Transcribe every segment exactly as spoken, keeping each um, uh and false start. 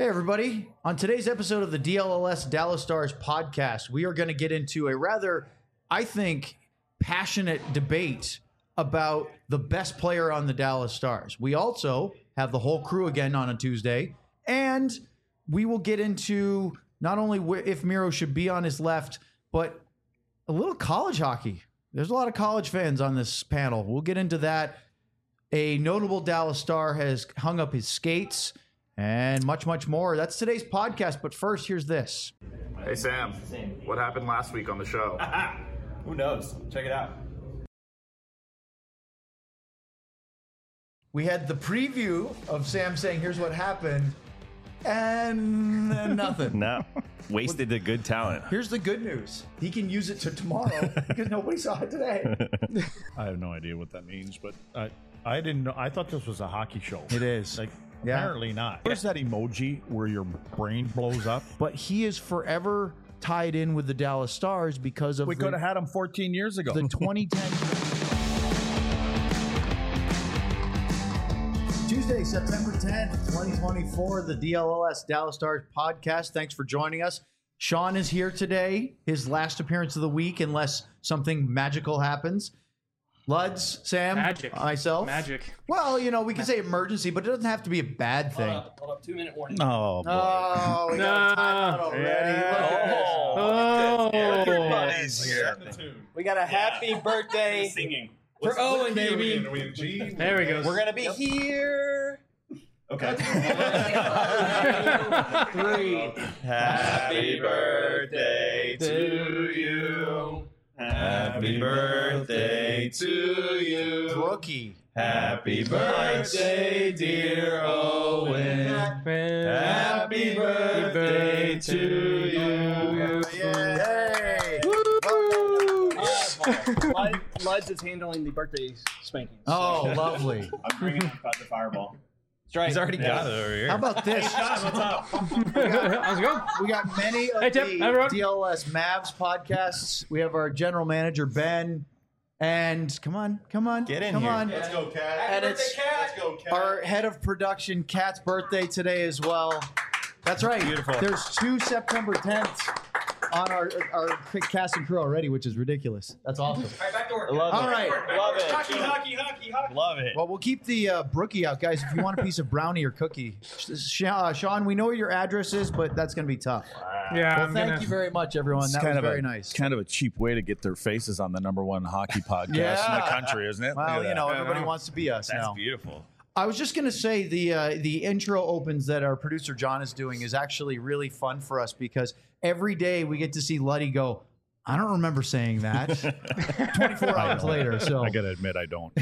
Hey, everybody. On today's episode of the D L L S Dallas Stars podcast, we are going to get into a rather, I think, passionate debate about the best player on the Dallas Stars. We also have the whole crew again on a Tuesday, and we will get into not only wh- if Miro should be on his left, but a little college hockey. There's a lot of college fans on this panel. We'll get into that. A notable Dallas Star has hung up his skates and much, much more. That's today's podcast. But first, here's this. Hey, Sam. What happened last week on the show? Who knows? Check it out. We had the preview of Sam saying, here's what happened, and then nothing. No. Wasted the good talent. Here's the good news. He can use it to tomorrow because nobody saw it today. I have no idea what that means, but I, I didn't know. I thought this was a hockey show. It is. Like, Yeah. apparently not. Where's that emoji where your brain blows up? But he is forever tied in with the Dallas Stars because of We the, could have had him fourteen years ago. the twenty ten. Tuesday, September tenth, twenty twenty-four, the D L L S Dallas Stars podcast. Thanks for joining us. Sean is here today, his last appearance of the week, unless something magical happens. Luds, Sam, Magic. myself. Magic. Well, you know, we can say emergency, but it doesn't have to be a bad thing. Hold up, hold up, two minute warning. oh, boy. Oh, we got a timeout already. Yeah. Look at this. Oh. Everybody's here. We got a happy birthday Singing. for Owen, baby. There we go. We're gonna be here. Okay. Three. Happy birthday to you. Happy birthday to you. Rookie. Happy birthday, dear Owen. Happy birthday to you. Yay! Lud- Luds is handling the birthday spankings. Oh, lovely. I'm bringing him the fireball. That's right. He's already got it over here. How about this? How's it going? We got many of Hey, Tip, the everyone. D L S Mavs podcasts. We have our general manager, Ben. And come on, come on. Get in come here. on. Let's go, Cat. And it's Let's go, Cat. our head of production, Kat's birthday today as well. That's right. Beautiful. There's two September tenths on our, our cast and crew already, which is ridiculous. That's awesome. All right, back to work. Love All it. right. Love it. Hockey, hockey, hockey, hockey. Love it. Well, we'll keep the uh, brookie out, guys. If you want a piece of brownie or cookie, Sh- uh, Sean, we know where your address is, but that's going to be tough. Yeah, Well, I'm thank gonna. you very much, everyone. It's That was kind of very a, nice. kind of a cheap way to get their faces on the number one hockey podcast in Yeah. the country, isn't it? Look Well, at you know, that. everybody know. wants to be us That's now. beautiful. I was just going to say the uh, the intro opens that our producer John is doing is actually really fun for us because every day we get to see Luddy go, I don't remember saying that. twenty-four I hours know. later. So I got to admit, I don't.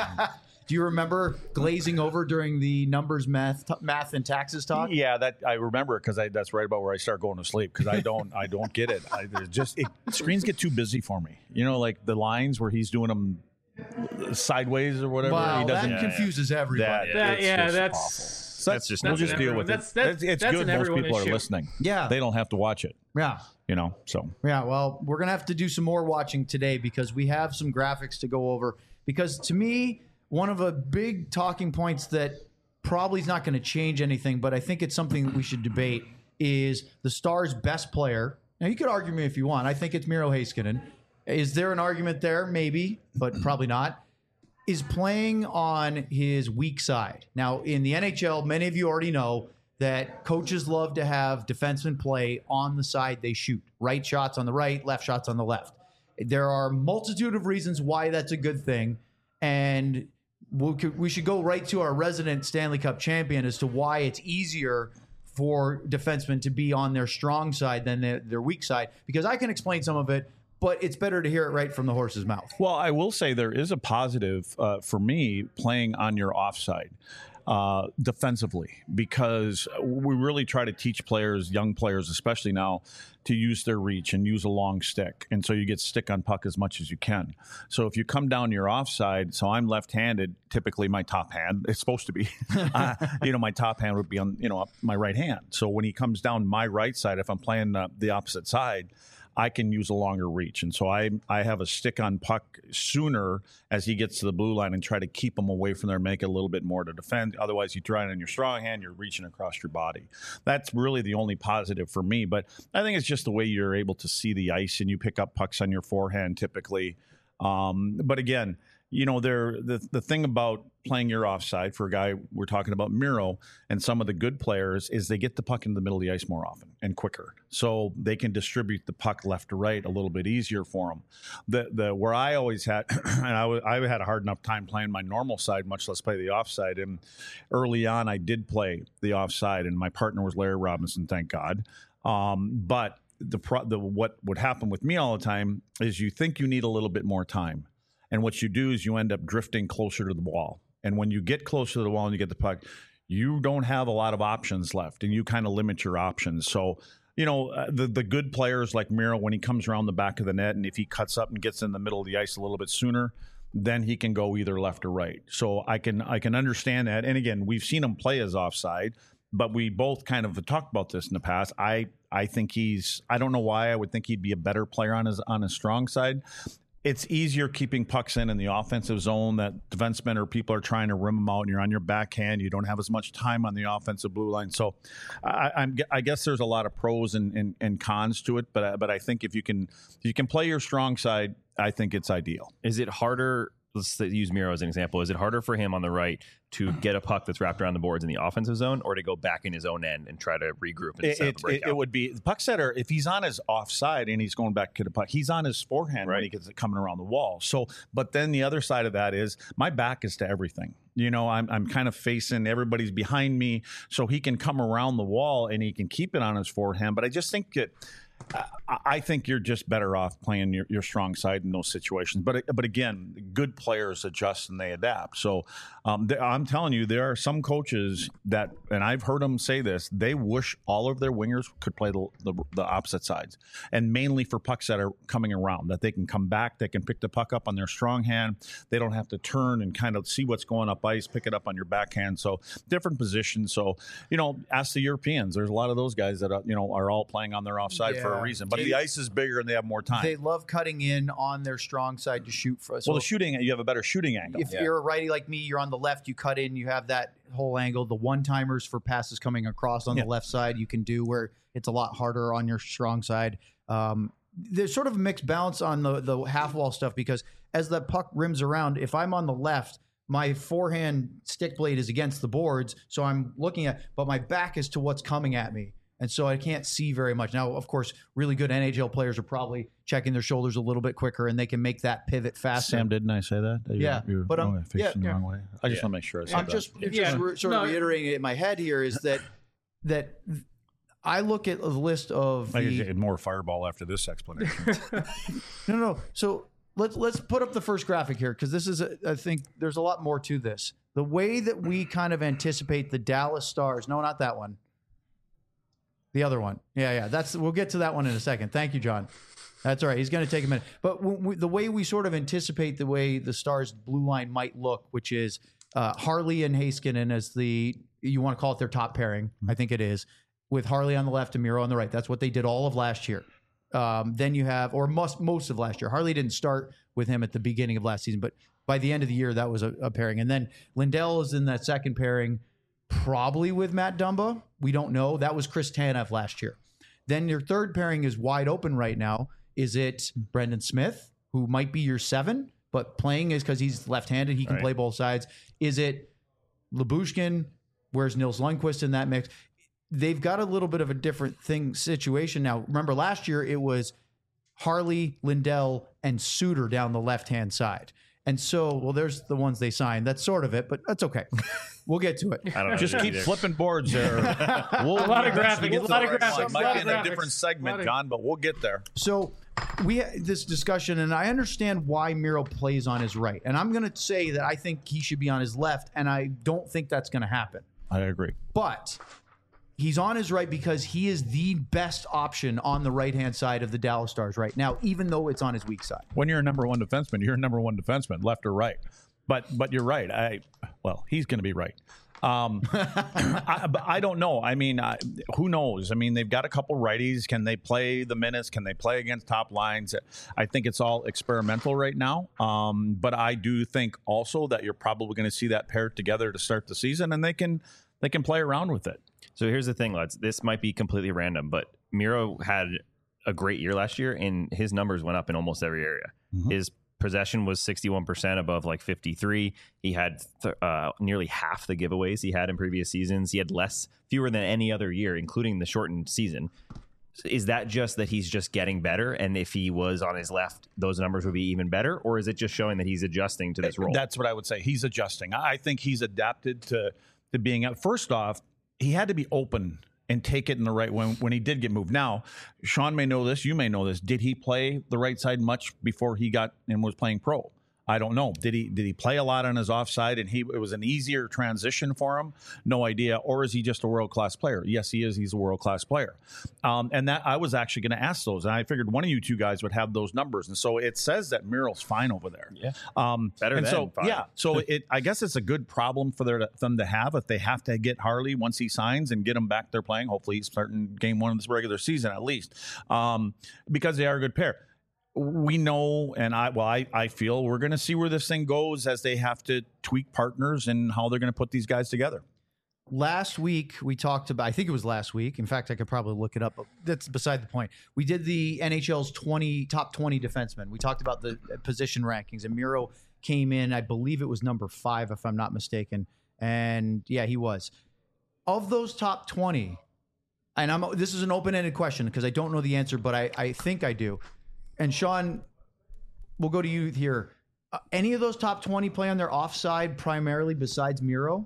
do you remember glazing over during the numbers, math, t- math and taxes talk? Yeah, that I remember it because that's right about where I start going to sleep because I don't I don't get it. I there's just it, screens get too busy for me. You know, like the lines where he's doing them sideways or whatever. Wow, he that doesn't. confuses everybody. That- That, it's yeah, just that's awful. So that's just We'll That's just an deal everyone- with it. that's- that's- it's it's that's good an most everyone people issue. are listening. Yeah. They don't have to watch it. Yeah. You know, so Yeah, well, we're going to have to do some more watching today because we have some graphics to go over. Because to me, one of the big talking points that probably is not going to change anything, but I think it's something that we should debate is the Stars' best player. Now, you could argue me if you want. I think it's Miro Heiskanen. Is there an argument there? Maybe, but probably not. Is playing on his weak side. Now, in the N H L, many of you already know that coaches love to have defensemen play on the side they shoot. Right shots on the right, left shots on the left. There are a multitude of reasons why that's a good thing. And we could- we should go right to our resident Stanley Cup champion as to why it's easier for defensemen to be on their strong side than their, their weak side. Because I can explain some of it, but it's better to hear it right from the horse's mouth. Well, I will say there is a positive uh, for me playing on your offside uh, defensively because we really try to teach players, young players especially now, to use their reach and use a long stick. And so you get stick on puck as much as you can. So if you come down your offside, so I'm left-handed, typically my top hand, it's supposed to be, uh, you know, my top hand would be on, you know, my right hand. So when he comes down my right side, if I'm playing uh, the opposite side, I can use a longer reach. And so I I have a stick on puck sooner as he gets to the blue line and try to keep him away from there, make it a little bit more to defend. Otherwise, you try it on your strong hand, you're reaching across your body. That's really the only positive for me. But I think it's just the way you're able to see the ice and you pick up pucks on your forehand typically. Um, but again, you know, there the the thing about playing your offside for a guy we're talking about Miro and some of the good players is they get the puck in the middle of the ice more often and quicker, so they can distribute the puck left to right a little bit easier for them. The the where I always had and I, w- I had a hard enough time playing my normal side, much less play the offside. And early on, I did play the offside, and my partner was Larry Robinson, thank God. Um, but the pro- the what would happen with me all the time is you think you need a little bit more time. And what you do is you end up drifting closer to the wall. And when you get closer to the wall and you get the puck, you don't have a lot of options left, and you kind of limit your options. So, you know, uh, the the good players like Miro, when he comes around the back of the net and if he cuts up and gets in the middle of the ice a little bit sooner, then he can go either left or right. So I can I can understand that. And again, we've seen him play as offside, but we both kind of talked about this in the past. I I think he's I don't know why I would think he'd be a better player on his on his strong side. It's easier keeping pucks in in the offensive zone that defensemen or people are trying to rim them out, and you're on your backhand. You don't have as much time on the offensive blue line. So I, I'm, I guess there's a lot of pros and, and, and cons to it, but but I think if you can if you can play your strong side, I think it's ideal. Is it harder? Let's use Miro as an example. Is it harder for him on the right to get a puck that's wrapped around the boards in the offensive zone, or to go back in his own end and try to regroup and It, set up it, the breakout? it would be the puck setter. If he's on his offside and he's going back to the puck, he's on his forehand Right. when he gets it coming around the wall. So, but then the other side of that is my back is to everything. You know, I'm I'm kind of facing everybody's behind me, so he can come around the wall and he can keep it on his forehand. But I just think that. I, I think you're just better off playing your, your strong side in those situations. But but again, good players adjust and they adapt. So um, th- I'm telling you, there are some coaches that, and I've heard them say this, they wish all of their wingers could play the, the, the opposite sides, and mainly for pucks that are coming around, that they can come back, they can pick the puck up on their strong hand. They don't have to turn and kind of see what's going up ice, pick it up on your backhand. So different positions. So, you know, ask the Europeans. There's a lot of those guys that, are, you know, are all playing on their offside Yeah. for a reason. But They- the ice is bigger and they have more time. They love cutting in on their strong side to shoot for us. well, the shooting, you have a better shooting angle. If you're a righty like me, you're on the left, you cut in, you have that whole angle. The one-timers for passes coming across on Yeah. the left side you can do, where it's a lot harder on your strong side. Um, there's sort of a mixed balance on the, the half-wall stuff, because as the puck rims around, if I'm on the left, my forehand stick blade is against the boards, so I'm looking at, but my back is to what's coming at me. And so I can't see very much. Now, of course, really good N H L players are probably checking their shoulders a little bit quicker, and they can make that pivot faster. Sam, didn't I say that? That you- Yeah, you were- but, um, okay, facing yeah, the wrong way. I just Yeah. want to make sure I said I'm that. just, it's Yeah. just re- sort of No. reiterating it in my head here is that that I look at the list of I the, get more fireball after this explanation. no, no. So let's let's put up the first graphic here, because this is a, I think there's a lot more to this. The way that we kind of anticipate the Dallas Stars. No, not that one. The other one. Yeah, yeah. That's we'll get to that one in a second. Thank you, John. That's all right. He's going to take a minute. But when we, the way we sort of anticipate the way the Stars blue line might look, which is uh, Harley and Heiskanen as the, you want to call it their top pairing. I think it is, with Harley on the left and Miro on the right. That's what they did all of last year. Um, then you have, or most, most of last year. Harley didn't start with him at the beginning of last season, but by the end of the year, that was a, a pairing. And then Lindell is in that second pairing, probably with Matt Dumba. We don't know. That was Chris Tanev last year. Then your third pairing is wide open right now. Is it Brendan Smith, who might be your seven, but playing is because he's left-handed. He can Right. play both sides. Is it Lyubushkin? Where's Nils Lundqvist in that mix? They've got a little bit of a different thing situation now. Remember, last year it was Harley, Lindell, and Suter down the left-hand side. And so, well, there's the ones they signed. That's sort of it, but that's okay. We'll get to it. I don't know. Just keep either. flipping boards there. We'll, A lot of graphics, a lot of It graphics, might a lot be of in a graphics. different segment, Lot of- John, but we'll get there. So we had this discussion, and I understand why Miro plays on his right. And I'm going to say that I think he should be on his left, and I don't think that's going to happen. I agree. But he's on his right because he is the best option on the right-hand side of the Dallas Stars right now, even though it's on his weak side. When you're a number one defenseman, you're a number one defenseman, left or right. But but you're right. I well, he's going to be right. Um, I, but I don't know. I mean, I, who knows? I mean, they've got a couple righties. Can they play the minutes? Can they play against top lines? I think it's all experimental right now. Um, but I do think also that you're probably going to see that paired together to start the season, and they can they can play around with it. So here's the thing, lads. This might be completely random, but Miro had a great year last year, and his numbers went up in almost every area. Mm-hmm. His possession was sixty-one percent above like fifty-three. He had th- uh, nearly half the giveaways he had in previous seasons. He had less, fewer than any other year, including the shortened season. Is that just that he's just getting better? And if he was on his left, those numbers would be even better? Or is it just showing that he's adjusting to this role? That's what I would say. He's adjusting. I think he's adapted to, to being out. First off, he had to be open and take it in the right when when he did get moved. Now, Sean may know this, you may know this. Did he play the right side much before he got and was playing pro? I don't know. Did he did he play a lot on his offside and he it was an easier transition for him? No idea. Or is he just a world class player? Yes, he is. He's a world class player. Um, and that I was actually going to ask those, and I figured one of you two guys would have those numbers. And so it says that Miro's fine over there. Yeah, um, better and than so fine. Yeah. So it I guess it's a good problem for their, them to have if they have to get Harley once he signs and get him back there playing. Hopefully he's starting game one of this regular season at least, um, because they are a good pair. We know, and I well, I, I feel we're going to see where this thing goes as they have to tweak partners and how they're going to put these guys together. Last week, we talked about, I think it was last week. In fact, I could probably look it up, but that's beside the point. We did the N H L's twenty top twenty defensemen. We talked about the position rankings, and Miro came in, I believe it was number five, if I'm not mistaken. And yeah, he was. Of those top twenty, and I'm this is an open-ended question because I don't know the answer, but I, I think I do. And Sean, we'll go to you here. Uh, any of those top twenty play on their offside primarily besides Miro?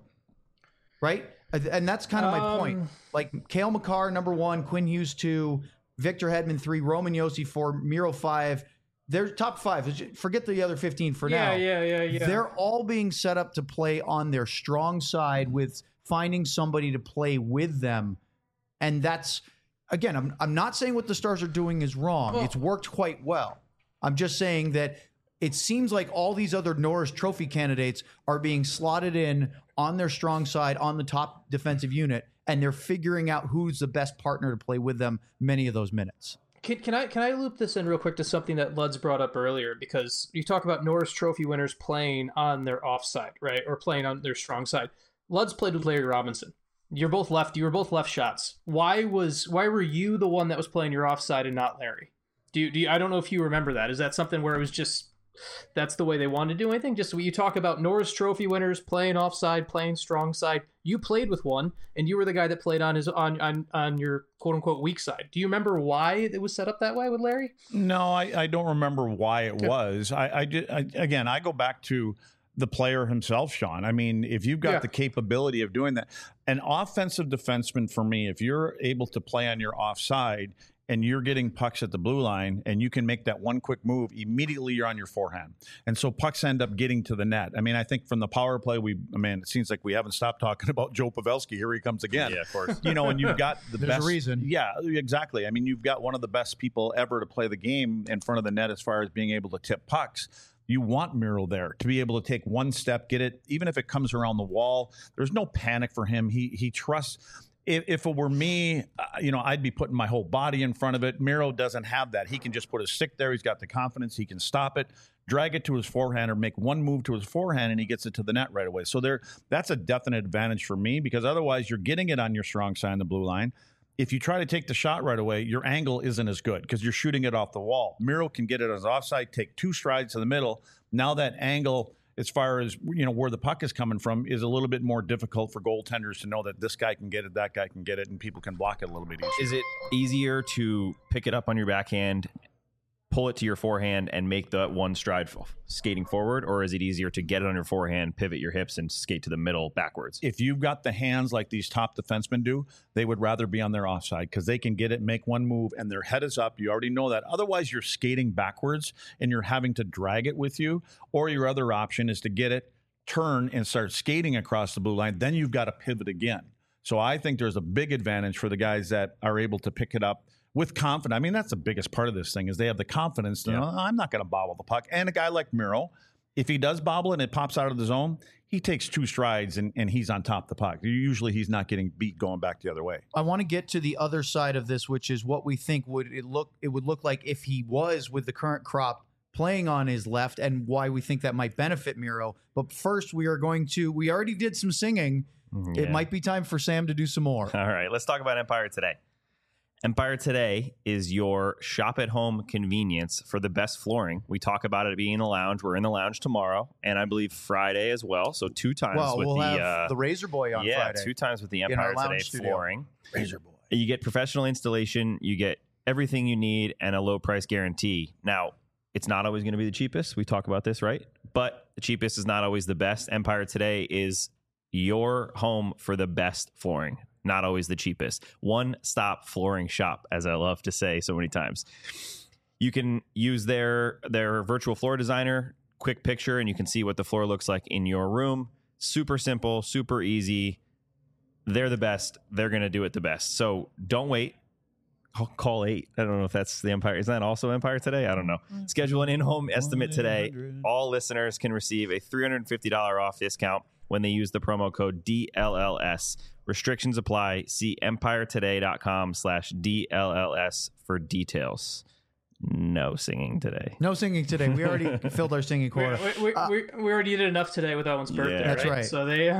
Right? And that's kind of my Um, point. Like Cale Makar, number one, Quinn Hughes, two, Victor Hedman, three, Roman Josi, four, Miro, five. They're top five. Forget the other fifteen for Yeah, now. yeah, yeah, yeah. They're all being set up to play on their strong side with finding somebody to play with them. And that's, again, I'm, I'm not saying what the Stars are doing is wrong. Well- It's worked quite well. I'm just saying that it seems like all these other Norris Trophy candidates are being slotted in on their strong side, on the top defensive unit, and they're figuring out who's the best partner to play with them many of those minutes. Can, can I can I loop this in real quick to something that Luds brought up earlier? Because you talk about Norris Trophy winners playing on their offside, right, or playing on their strong side. Luds played with Larry Robinson. You're both left. You were both left shots. Why was why were you the one that was playing your offside and not Larry? Do you, do you, I don't know if you remember that. Is that something where it was just that's the way they wanted to do anything? Just when you talk about Norris Trophy winners playing offside, playing strong side, you played with one, and you were the guy that played on his on on, on your quote unquote weak side. Do you remember why it was set up that way with Larry? No, I, I don't remember why it Okay. was. I, I did I, again. I go back to the player himself, Sean. I mean, if you've got Yeah. the capability of doing that, an offensive defenseman for me, if you're able to play on your offside and you're getting pucks at the blue line and you can make that one quick move, immediately you're on your forehand. And so pucks end up getting to the net. I mean, I think from the power play, we, I mean, it seems like we haven't stopped talking about Joe Pavelski. Here he comes again. Yeah, of course. You know, and you've got the There's a best reason. Yeah, exactly. I mean, you've got one of the best people ever to play the game in front of the net as far as being able to tip pucks. You want Miro there to be able to take one step, get it, even if it comes around the wall. There's no panic for him. He he trusts. If, if it were me, uh, you know, I'd be putting my whole body in front of it. Miro doesn't have that. He can just put his stick there. He's got the confidence. He can stop it, drag it to his forehand, or make one move to his forehand, and he gets it to the net right away. So there, that's a definite advantage for me because otherwise you're getting it on your strong side on the blue line. If you try to take the shot right away, your angle isn't as good because you're shooting it off the wall. Miro can get it as offside, take two strides to the middle. Now that angle, as far as you know where the puck is coming from, is a little bit more difficult for goaltenders to know that this guy can get it, that guy can get it, and people can block it a little bit easier. Is it easier to pick it up on your backhand, pull it to your forehand, and make that one stride f- skating forward? Or is it easier to get it on your forehand, pivot your hips, and skate to the middle backwards? If you've got the hands like these top defensemen do, they would rather be on their offside because they can get it, make one move, and their head is up. You already know that. Otherwise, you're skating backwards and you're having to drag it with you. Or your other option is to get it, turn, and start skating across the blue line. Then you've got to pivot again. So I think there's a big advantage for the guys that are able to pick it up with confidence. I mean, that's the biggest part of this thing is they have the confidence to Yeah. know, I'm not going to bobble the puck. And a guy like Miro, If he does bobble and it pops out of the zone, he takes two strides and, and he's on top of the puck. Usually he's not getting beat going back the other way. I want to get to the other side of this, which is what we think would it look it would look like if he was with the current crop playing on his left, and why we think that might benefit Miro. But first, we are going to we already did some singing. Yeah. It might be time for Sam to do some more. All right, let's talk about Empire Today. Empire Today is your shop at home convenience for the best flooring. We talk about it being in the lounge. We're in the lounge tomorrow, and I believe Friday as well. So two times Well, with we'll the have uh, the Razor Boy on yeah, Friday. two times with the in Empire our lounge Today studio. flooring. Razor Boy. You get professional installation. You get everything you need and a low price guarantee. Now, it's not always going to be the cheapest. We talk about this, right? But the cheapest is not always the best. Empire Today is your home for the best flooring. Not always the cheapest. One-stop flooring shop, as I love to say so many times. You can use their their virtual floor designer, quick picture, and you can see what the floor looks like in your room. Super simple, super easy. They're the best. They're going to do it the best. So don't wait. I'll call eight. I don't know if that's the Empire. Is that also Empire Today? I don't know. Schedule an in-home estimate today. All listeners can receive a three hundred fifty dollars off discount when they use the promo code D L L S. Restrictions apply. See empiretoday.com slash DLLS for details. No singing today. No singing today. We already filled our singing We, quota. we, we, Uh, we, we already did enough today with Owen's birthday. Yeah. That's right. So they.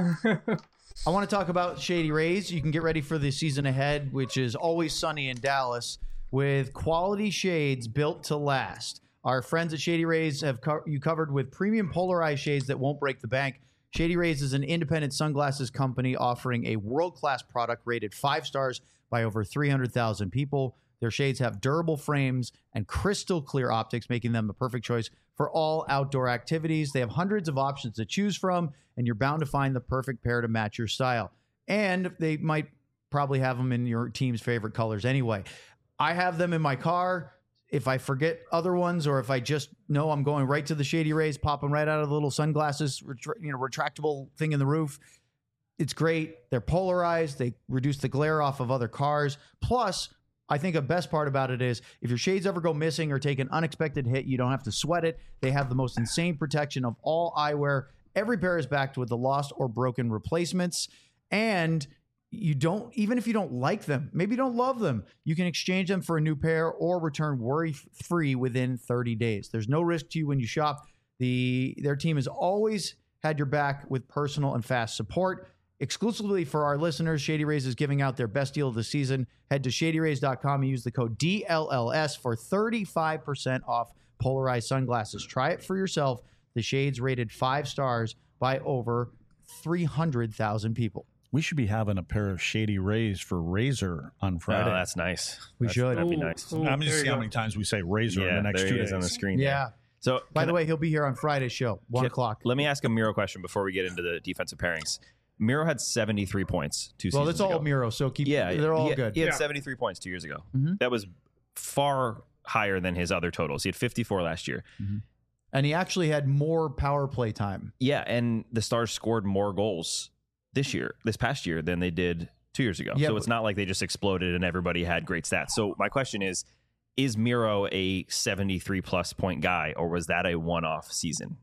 I want to talk about Shady Rays. You can get ready for the season ahead, which is always sunny in Dallas, with quality shades built to last. Our friends at Shady Rays have co- you covered with premium polarized shades that won't break the bank. Shady Rays is an independent sunglasses company offering a world-class product rated five stars by over three hundred thousand people. Their shades have durable frames and crystal clear optics, making them the perfect choice for all outdoor activities. They have hundreds of options to choose from, and you're bound to find the perfect pair to match your style. And they might probably have them in your team's favorite colors anyway. I have them in my car. If I forget other ones, or if I just know I'm going right to the Shady Rays, pop them right out of the little sunglasses, retra- you know, retractable thing in the roof. It's great. They're polarized. They reduce the glare off of other cars. Plus, I think the best part about it is if your shades ever go missing or take an unexpected hit, you don't have to sweat it. They have the most insane protection of all eyewear. Every pair is backed with the lost or broken replacements. And you don't, even if you don't like them, maybe you don't love them, you can exchange them for a new pair or return worry-free within thirty days. There's no risk to you when you shop. The Their team has always had your back with personal and fast support. Exclusively for our listeners, Shady Rays is giving out their best deal of the season. Head to shady rays dot com and use the code D L L S for thirty-five percent off polarized sunglasses. Try it for yourself. The shades rated five stars by over three hundred thousand people. We should be having a pair of Shady Rays for Razor on Oh, Friday. that's nice. We That's- should. That'd be Ooh, nice. ooh, I'm there just you see how go. many times we say Razor Yeah, in the next there two he is days. on the screen. Yeah. there. So By can the I- way, he'll be here on Friday's show, one can- o'clock. Let me ask a Miro question before we get into the defensive pairings. Miro had seventy-three points two Well, seasons that's all ago. Miro, so keep. Yeah, they're all he, good. He had Yeah. seventy-three points two years ago. Mhm. That was far higher than his other totals. He had fifty-four last year. And he actually had more power play time. Yeah, and the Stars scored more goals this year, this past year, than they did two years ago. Yeah, so but- it's not like they just exploded and everybody had great stats. So my question is, is Miro a seventy-three plus point guy, or was that a one-off season?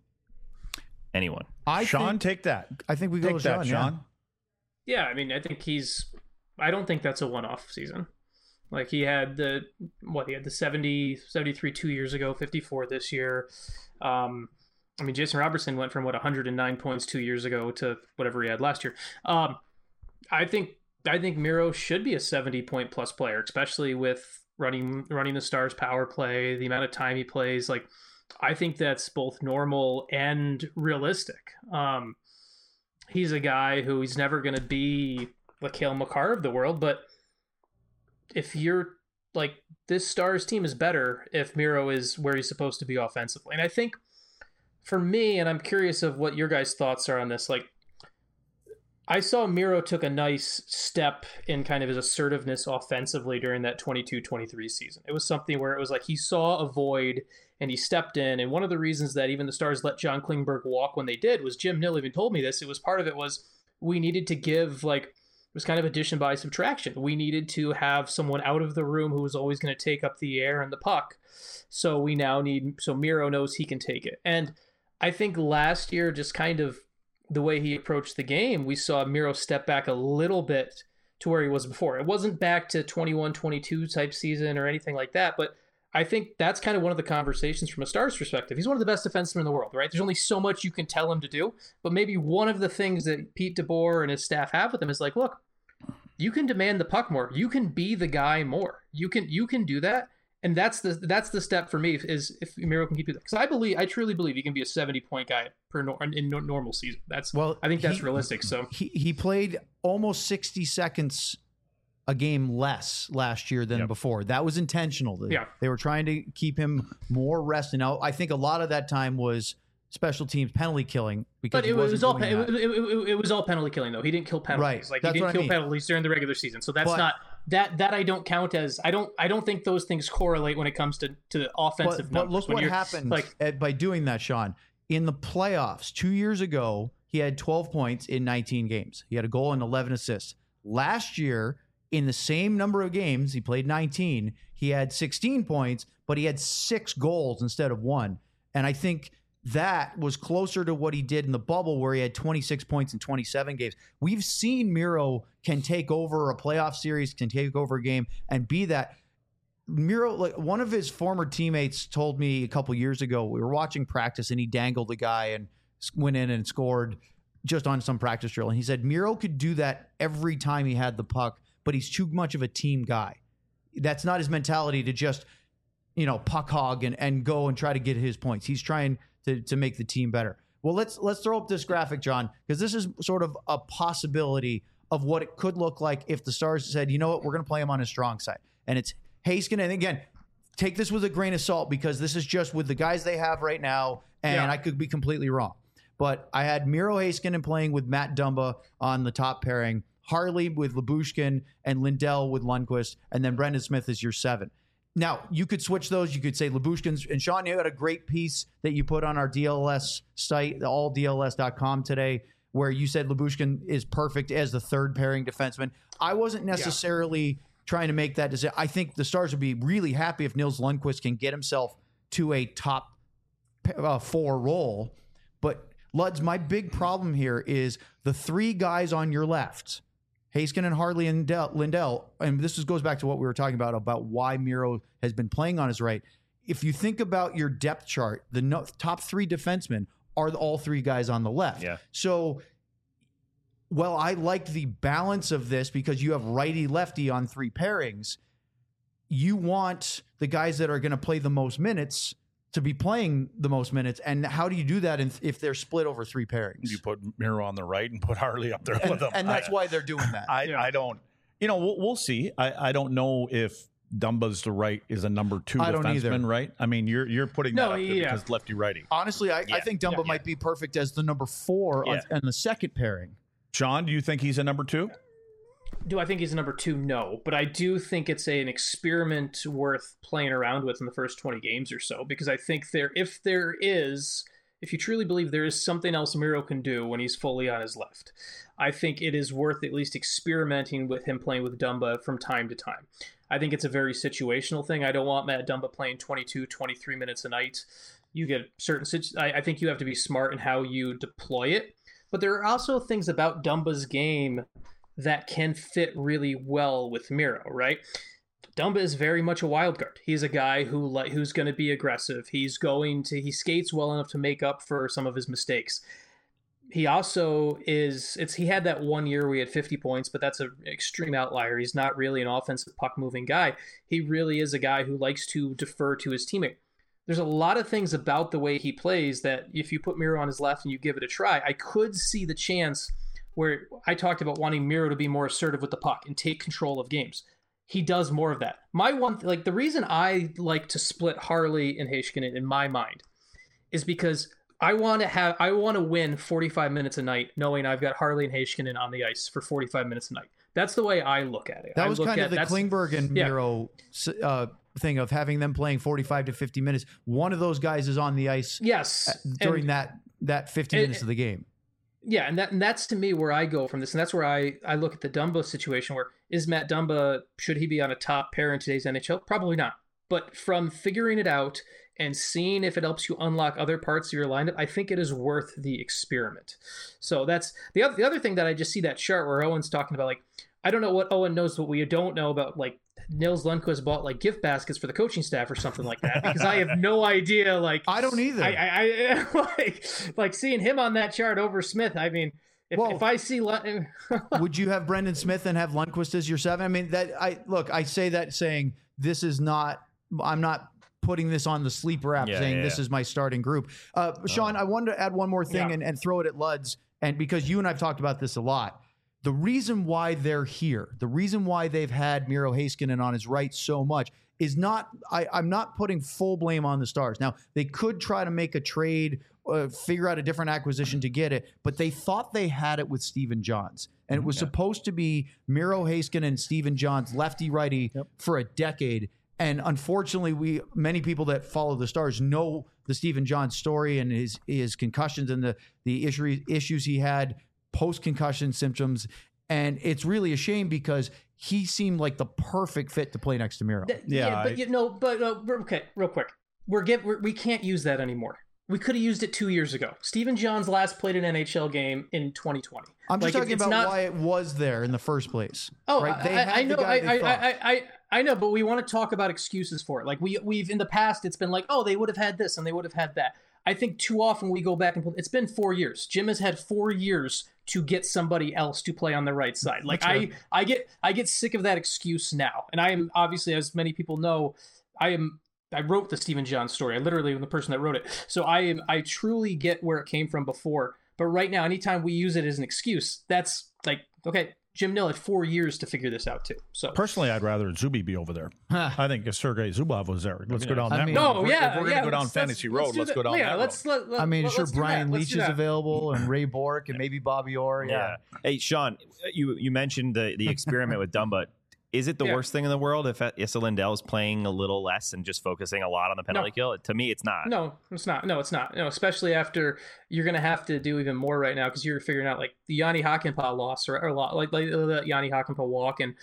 Anyone? I Sean, think, take that. I think we go Take with that, Sean. yeah. Sean. Yeah, I mean, I think he's. I don't think that's a one-off season. Like he had the what he had the seventy, seventy-three two years ago, fifty-four this year. Um, I mean, Jason Robertson went from what one hundred nine points two years ago to whatever he had last year. Um, I think I think Miro should be a seventy point plus player, especially with running running the Stars power play, the amount of time he plays. Like, I think that's both normal and realistic. Um, he's a guy who he's never going to be the Cale Makar of the world, but if you're like, this Stars team is better if Miro is where he's supposed to be offensively. And I think for me, and I'm curious of what your guys' thoughts are on this, like, I saw Miro took a nice step in kind of his assertiveness offensively during that twenty-two twenty-three season. It was something where it was like he saw a void and he stepped in. And one of the reasons that even the Stars let John Klingberg walk when they did was Jim Nill even told me this. It was part of it was we needed to give, like, it was kind of addition by subtraction. We needed to have someone out of the room who was always going to take up the air and the puck. So we now need, so Miro knows he can take it. And I think last year, just kind of the way he approached the game, we saw Miro step back a little bit to where he was before. It wasn't back to twenty-one twenty-two type season or anything like that, but I think that's kind of one of the conversations from a Stars perspective. He's one of the best defensemen in the world, right? There's only so much you can tell him to do, but maybe one of the things that Pete DeBoer and his staff have with him is like, look, you can demand the puck more. You can be the guy more. You can you can do that. And that's the that's the step for me is if Miro can keep it. Because I believe, I truly believe he can be a seventy point guy per nor, in no, normal season. That's well, I think that's he, realistic. So he he played almost sixty seconds a game less last year than Yep. before. That was intentional. They, Yeah. they were trying to keep him more rested. Now I think a lot of that time was special teams penalty killing because But he it was wasn't all doing it, that. it, it, it was all penalty killing though. He didn't kill penalties. Right. Like That's he didn't what I kill mean. penalties during the regular season. So that's But- not that that I don't count as I don't I don't think those things correlate when it comes to to offensive But, but numbers. look When what you're- happened Like at- by doing that, Sean. In the playoffs two years ago, he had twelve points in nineteen games. He had a goal and eleven assists. Last year, in the same number of games, he played nineteen. He had sixteen points, but he had six goals instead of one. And I think that was closer to what he did in the bubble where he had twenty-six points in twenty-seven games. We've seen Miro can take over a playoff series, can take over a game and be that. Miro, like one of his former teammates told me a couple years ago, we were watching practice and he dangled a guy and went in and scored just on some practice drill. And he said Miro could do that every time he had the puck, but he's too much of a team guy. That's not his mentality to just, you know, puck hog and, and go and try to get his points. He's trying to, to make the team better. Well, let's let's throw up this graphic, John, because this is sort of a possibility of what it could look like if the Stars said, you know what, we're going to play him on his strong side. And it's Heiskanen. And again, take this with a grain of salt because this is just with the guys they have right now, and Yeah. I could be completely wrong. But I had Miro Heiskanen playing with Matt Dumba on the top pairing, Harley with Lyubushkin, and Lindell with Lundqvist, and then Brendan Smith is your seven. Now, you could switch those. You could say Lyubushkin's, and Sean, you had a great piece that you put on our D L S site, all D L S dot com today, where you said Lyubushkin is perfect as the third pairing defenseman. I wasn't necessarily trying to make that decision. I think the Stars would be really happy if Nils Lundqvist can get himself to a top uh, four role. But, Luds, my big problem here is the three guys on your left, Heiskanen, Harley, and Del- Lindell, and this is, goes back to what we were talking about, about why Miro has been playing on his right. If you think about your depth chart, the no, top three defensemen are the, all three guys on the left. Yeah. So, well, I like the balance of this because you have righty-lefty on three pairings. You want the guys that are going to play the most minutes to be playing the most minutes. And how do you do that in, if they're split over three pairings? You put Miro on the right and put Harley up there and, with him. and that's I, why they're doing that. I, Yeah. I don't, you know, we'll, we'll see. I, I don't know if Dumba's the right is a number two I don't either. defenseman, right? I mean, you're you're putting No, that up there yeah. because lefty righty. Honestly, I, Yeah. I think Dumba Yeah. might be perfect as the number four on, Yeah. on the second pairing. Sean, do you think he's a number two? Do I think he's a number two? No, but I do think it's a, an experiment worth playing around with in the first twenty games or so, because I think there, if there is, if you truly believe there is something else Miro can do when he's fully on his left, I think it is worth at least experimenting with him playing with Dumba from time to time. I think it's a very situational thing. I don't want Matt Dumba playing twenty-two, twenty-three minutes a night. You get certain, situ- I, I think you have to be smart in how you deploy it. But there are also things about Dumba's game that can fit really well with Miro, right? Dumba is very much a wild card. He's a guy who like who's going to be aggressive. He's going to he skates well enough to make up for some of his mistakes. He also is it's he had that one year where he had fifty points, but that's an extreme outlier. He's not really an offensive puck moving guy. He really is a guy who likes to defer to his teammate. There's a lot of things about the way he plays that if you put Miro on his left and you give it a try, I could see the chance where I talked about wanting Miro to be more assertive with the puck and take control of games. He does more of that. My one, like the reason I like to split Harley and Heiskanen in my mind is because I want to have, I want to win forty-five minutes a night, knowing I've got Harley and Heiskanen on the ice for forty-five minutes a night. That's the way I look at it. That I was look kind at, of the that's- Klingberg and yeah. Miro uh, thing of having them playing forty-five to fifty minutes. One of those guys is on the ice Yes, during and- that that fifty and- minutes of the game. Yeah, and that and that's to me where I go from this, and that's where I, I look at the Dumba situation. Where is Matt Dumba? Should he be on a top pair in today's N H L? Probably not. But from figuring it out and seeing if it helps you unlock other parts of your lineup, I think it is worth the experiment. So that's the other the other thing that I just see that chart where Owen's talking about, like, I don't know what Owen knows, what we don't know about, like, Nils Lundqvist bought like gift baskets for the coaching staff or something like that, because I have no idea. Like, I don't either. I, I, I like like seeing him on that chart over Smith. I mean, if, Well, if I see Lund- would you have Brendan Smith and have Lundqvist as your seven? I mean, that I look, I say that saying this is not, I'm not putting this on the sleeper app Yeah, saying yeah, this yeah. is my starting group. Uh, Sean, I wanted to add one more thing Yeah. and, and throw it at Luds. And because you and I've talked about this a lot, the reason why they're here, the reason why they've had Miro Heiskanen on his right so much is not, I, I'm not putting full blame on the Stars. Now, they could try to make a trade, uh, figure out a different acquisition to get it, but they thought they had it with Steven Johns. And it was supposed to be Miro Heiskanen and Steven Johns, lefty-righty, for a decade. And unfortunately, we many people that follow the Stars know the Steven Johns story and his his concussions and the, the issue, issues he had post-concussion symptoms. And it's really a shame because he seemed like the perfect fit to play next to Miro. Th- Yeah, but I- you know, but uh, we're- okay, real quick, we're get we're, we can't use that anymore. We could have used it two years ago. Steven Johns last played an N H L game in twenty twenty. I'm just Like, talking it's about not- why it was there in the first place. Oh, right? They I, had I the know, guy I, they I, thought. I, I, I know, but we want to talk about excuses for it. Like we, we've in the past, it's been like, oh, they would have had this and they would have had that. I think too often we go back and it's been four years. Jim has had four years to get somebody else to play on the right side. Like I, I get, I get sick of that excuse now. And I am obviously, as many people know, I am. I wrote the Steven Johns story. I literally am the person that wrote it. So I am. I truly get where it came from before. But right now, anytime we use it as an excuse, that's like, okay, Jim Nill had four years to figure this out too. So Personally, I'd rather Zuby be over there. I think if Sergei Zubov was there, let's go down I that mean- road. no, If we're- yeah, if we're yeah. gonna go down let's- fantasy let's- road, do let's that. go down yeah, that let's, road. Let, let, I mean, let, sure, let's do Brian that. Let's Leach do is that. available and Ray Bork and maybe Bobby Orr. Yeah. Hey, Sean, you you mentioned the the experiment with Dumba. Is it the Yeah. worst thing in the world if Issa Lindell is playing a little less and just focusing a lot on the penalty No. kill? To me, it's not. No, it's not. No, it's not. No, especially after you're going to have to do even more right now because you're figuring out like the Yanni Hakanpää loss or, or lot, like, like the Yanni Hakanpää walk. And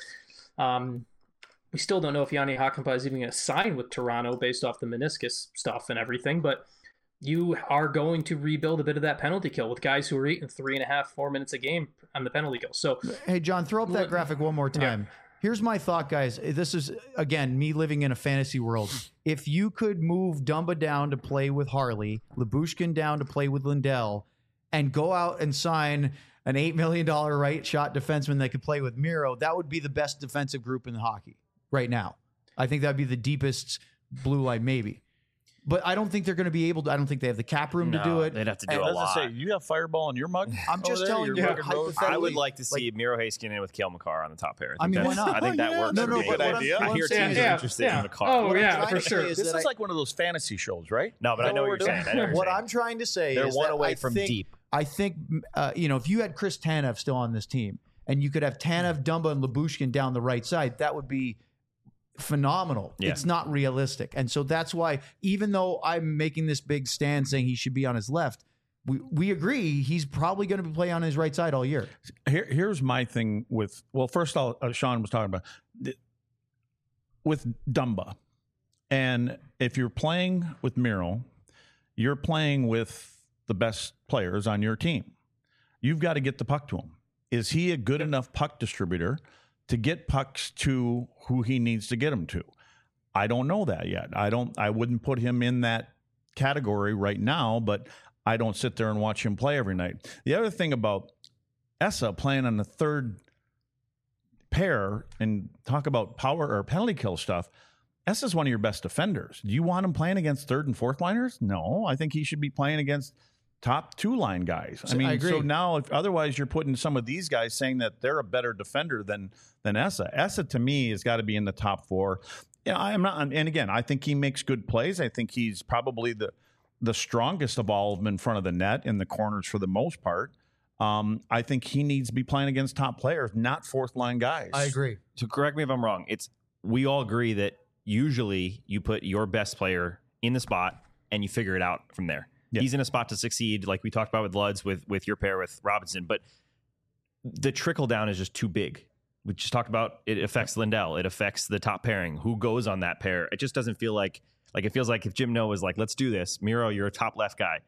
um, we still don't know if Yanni Hakanpää is even going to sign with Toronto based off the meniscus stuff and everything. But you are going to rebuild a bit of that penalty kill with guys who are eating three and a half, four minutes a game on the penalty kill. So Hey, John, throw up that Look- graphic one more time. Here's my thought, guys. This is, again, me living in a fantasy world. If you could move Dumba down to play with Harley, Lyubushkin down to play with Lindell, and go out and sign an eight million dollars right shot defenseman that could play with Miro, that would be the best defensive group in hockey right now. I think that would be the deepest blue line, maybe. But I don't think they're going to be able to. I don't think they have the cap room to do No, it. they'd have to do And a Doesn't lot. say you have Fireball in your mug. I'm just over there? telling Your you, mug and road? hypothetically, I would like to see like- Miro Heiskanen with Kale McCarr on the top pair. I mean, think why that's- not? I think that Yeah, works. no, for no, me. but good what I'm- idea. what I I'm hear saying teams is- are Yeah, interested yeah. in McCarr. Oh, What I'm yeah, trying for to say sure. is This that is I- like one of those fantasy shows, right? No, but I know what you're saying. I know what you're What saying. I'm trying to say They're is one that away I from think- deep. I think, uh, you know, if you had Chris Tanev still on this team and you could have Tanev, Dumba, and Lyubushkin down the right side, that would be phenomenal. Yeah. It's not realistic. And so that's why, even though I'm making this big stand saying he should be on his left, we, we agree he's probably going to play on his right side all year. Here, here's my thing with. Well, first, I'll, uh, Sean was talking about th- with Dumba, and if you're playing with Miro, you're playing with the best players on your team. You've got to get the puck to him. Is he a good enough puck distributor to get pucks to who he needs to get them to? I don't know that yet. I don't. I wouldn't put him in that category right now, but I don't sit there and watch him play every night. The other thing about Essa playing on the third pair and talk about power or penalty kill stuff, Essa's one of your best defenders. Do you want him playing against third and fourth liners? No, I think he should be playing against top two line guys. I So, mean, I agree. so now if otherwise you're putting some of these guys saying that they're a better defender than than Essa. Essa to me has got to be in the top four. Yeah, I'm not. And again, I think he makes good plays. I think he's probably the the strongest of all of them in front of the net in the corners for the most part. Um, I think he needs to be playing against top players, not fourth line guys. I agree. So correct me if I'm wrong. It's we all agree that usually you put your best player in the spot and you figure it out from there. Yeah. He's in a spot to succeed, like we talked about with Luds, with with your pair with Robinson. But the trickle down is just too big. We just talked about it affects Lindell. It affects the top pairing. Who goes on that pair? It just doesn't feel like Like it feels like if Jim Noah was like, let's do this, Miro, you're a top left guy.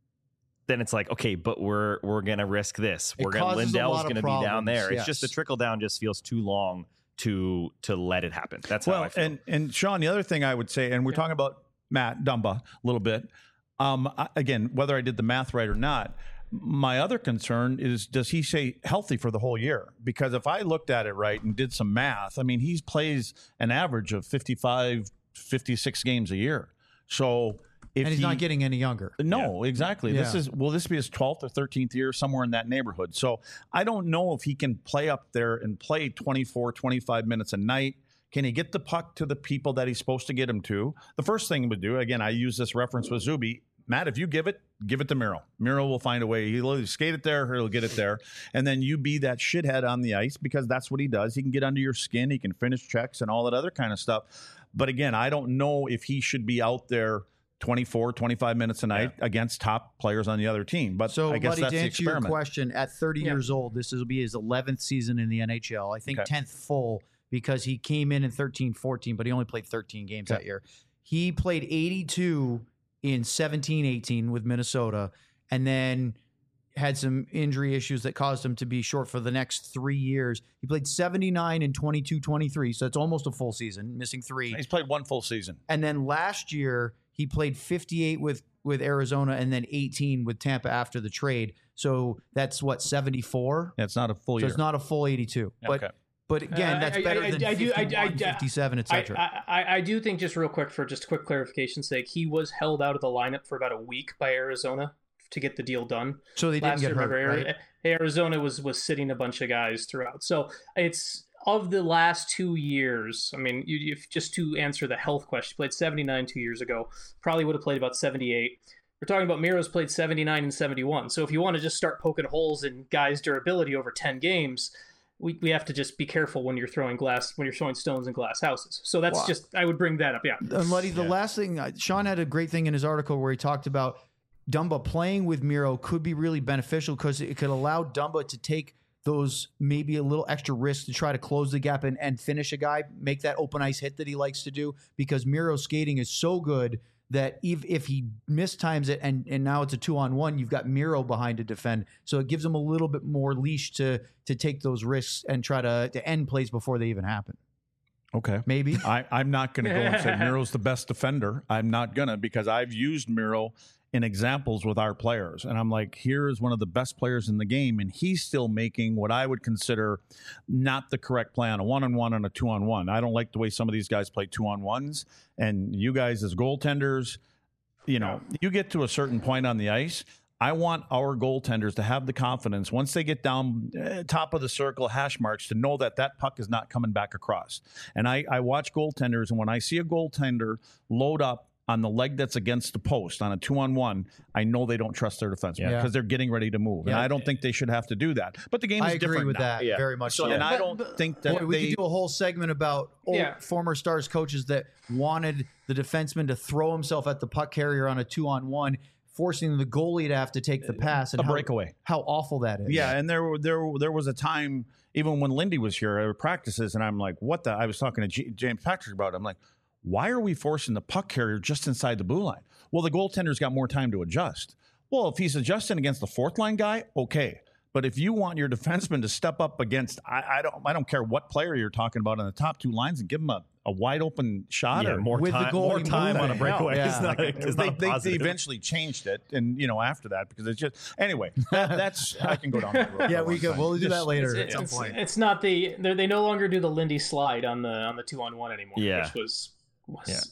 Then it's like, okay, but we're we're gonna risk this. It We're gonna causes a Lindell's lot of gonna be down problems, there. yes. It's just the trickle down just feels too long to to let it happen. That's how well, I feel. and and Sean, the other thing I would say, and we're talking about Matt Dumba a little bit. Um, I- again, whether I did the math right or not, my other concern is, does he stay healthy for the whole year? Because if I looked at it right and did some math, I mean, he plays an average of fifty-five, fifty-six games a year. So if and he's he, not getting any younger. No, exactly. This Yeah. is will this be his twelfth or thirteenth year, somewhere in that neighborhood. So I don't know if he can play up there and play twenty-four, twenty-five minutes a night. Can he get the puck to the people that he's supposed to get him to? The first thing he would do, again, I use this reference with Zuby. Matt, if you give it, give it to Miro. Miro will find a way. He'll either skate it there or he'll get it there. And then you be that shithead on the ice, because that's what he does. He can get under your skin. He can finish checks and all that other kind of stuff. But again, I don't know if he should be out there twenty-four, twenty-five minutes a night yeah. against top players on the other team. But so, I guess buddy, that's to the answer your experiment. question, at thirty Yeah. years old, this will be his eleventh season in the N H L. I think Okay. tenth full, because he came in in thirteen fourteen, but he only played thirteen games Okay. that year. He played eighty-two in seventeen eighteen with Minnesota, and then had some injury issues that caused him to be short for the next three years. He played seventy-nine in twenty-two twenty-three, so it's almost a full season, missing three. He's played one full season. And then last year, he played fifty-eight with, with Arizona and then eighteen with Tampa after the trade. So that's what, seventy-four? Yeah, it's not a full So year. it's not a full eighty-two. But Okay. but again, Uh, that's I- better I- than I do- I- I- fifty-one, I- fifty-seven, et I, cetera. I, I- I do think, just real quick, for just quick clarification's sake, he was held out of the lineup for about a week by Arizona to get the deal done. So they didn't Last get year, hurt, remember, right? Ari- Arizona was was sitting a bunch of guys throughout. So it's of the last two years. I mean, you, if just to answer the health question, he played seventy-nine two years ago. Probably would have played about seventy-eight. We're talking about Miro's played seventy-nine and seventy-one. So if you want to just start poking holes in guys' durability over ten games, we, we have to just be careful when you're throwing glass, when you're throwing stones in glass houses. So that's Wow. just, I would bring that up. Yeah. And Luddy, the last thing, uh, Sean had a great thing in his article where he talked about Dumba playing with Miro could be really beneficial because it could allow Dumba to take those maybe a little extra risks to try to close the gap and, and finish a guy, make that open ice hit that he likes to do, because Miro's skating is so good that if, if he mistimes it and, and now it's a two on one, you've got Miro behind to defend. So it gives him a little bit more leash to to take those risks and try to, to end plays before they even happen. Okay. Maybe. I, I'm not going to go and say Miro's the best defender. I'm not going to, because I've used Miro in examples with our players. And I'm like, here is one of the best players in the game, and he's still making what I would consider not the correct play on a one-on-one and a two-on-one. I don't like the way some of these guys play two-on-ones. And you guys as goaltenders, you know, you get to a certain point on the ice, I want our goaltenders to have the confidence once they get down uh, top of the circle hash marks to know that that puck is not coming back across. And I, I watch goaltenders, and when I see a goaltender load up on the leg that's against the post on a two-on-one, I know they don't trust their defenseman because Yeah. they're getting ready to move. And Yeah. I don't think they should have to do that. But the game is I agree different with now. that Yeah. very much. So, So, and I But- don't but- think that Boy, we they could do a whole segment about old Yeah. former Stars coaches that wanted the defenseman to throw himself at the puck carrier on a two-on-one, forcing the goalie to have to take the pass and a how, breakaway. how awful that is. Yeah, and there there there was a time even when Lindy was here at practices, and I'm like, what the? I was talking to G- James Patrick about it. I'm like, why are we forcing the puck carrier just inside the blue line? Well, the goaltender's got more time to adjust. Well, if he's adjusting against the fourth line guy, okay. But if you want your defenseman to step up against, I, I don't, I don't care what player you're talking about in the top two lines and give him a, a wide open shot. Yeah, or more with the time, goalie more time moving. on a breakaway. Yeah. It's not, it's they, not they, they positive. eventually changed it, and you know after that because it's just anyway. That, that's I can go down. That road Yeah, for a we long could. time. We'll do that Just- later It's, at some it's, point. it's not the they they no longer do the Lindy slide on the on the two on one anymore. Yeah. Which was, was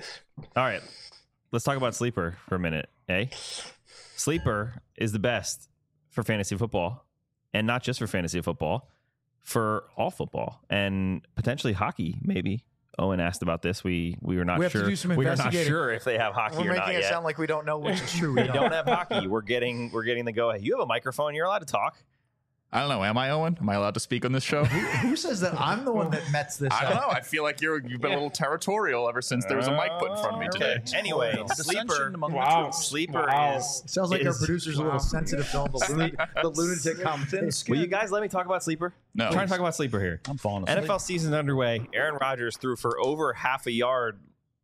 All right, let's talk about Sleeper for a minute, eh? Sleeper is the best for fantasy football, and not just for fantasy football, for all football and potentially hockey, maybe. Owen asked about this. We we were not We have to sure. do some we are not investigating. sure if they have hockey We're or making not it yet. sound like we don't know, which is true. We We don't have hockey. We're getting we're getting the go ahead. You have a microphone. You're allowed to talk. I don't know. Am I Owen? Am I allowed to speak on this show? Who says that I'm the one that mets this I don't up? know. I feel like you're you've been a little territorial ever since there was a mic put in front of me today. Anyway, Dissension Sleeper. among the Wow. troops. Sleeper Wow. is Sounds like our is- producer's a little sensitive to all the, luna- the lunatic comments. Will you guys let me talk about Sleeper? No. I'm trying to talk about Sleeper here. I'm falling asleep. N F L season's underway. Aaron Rodgers threw for over half a yard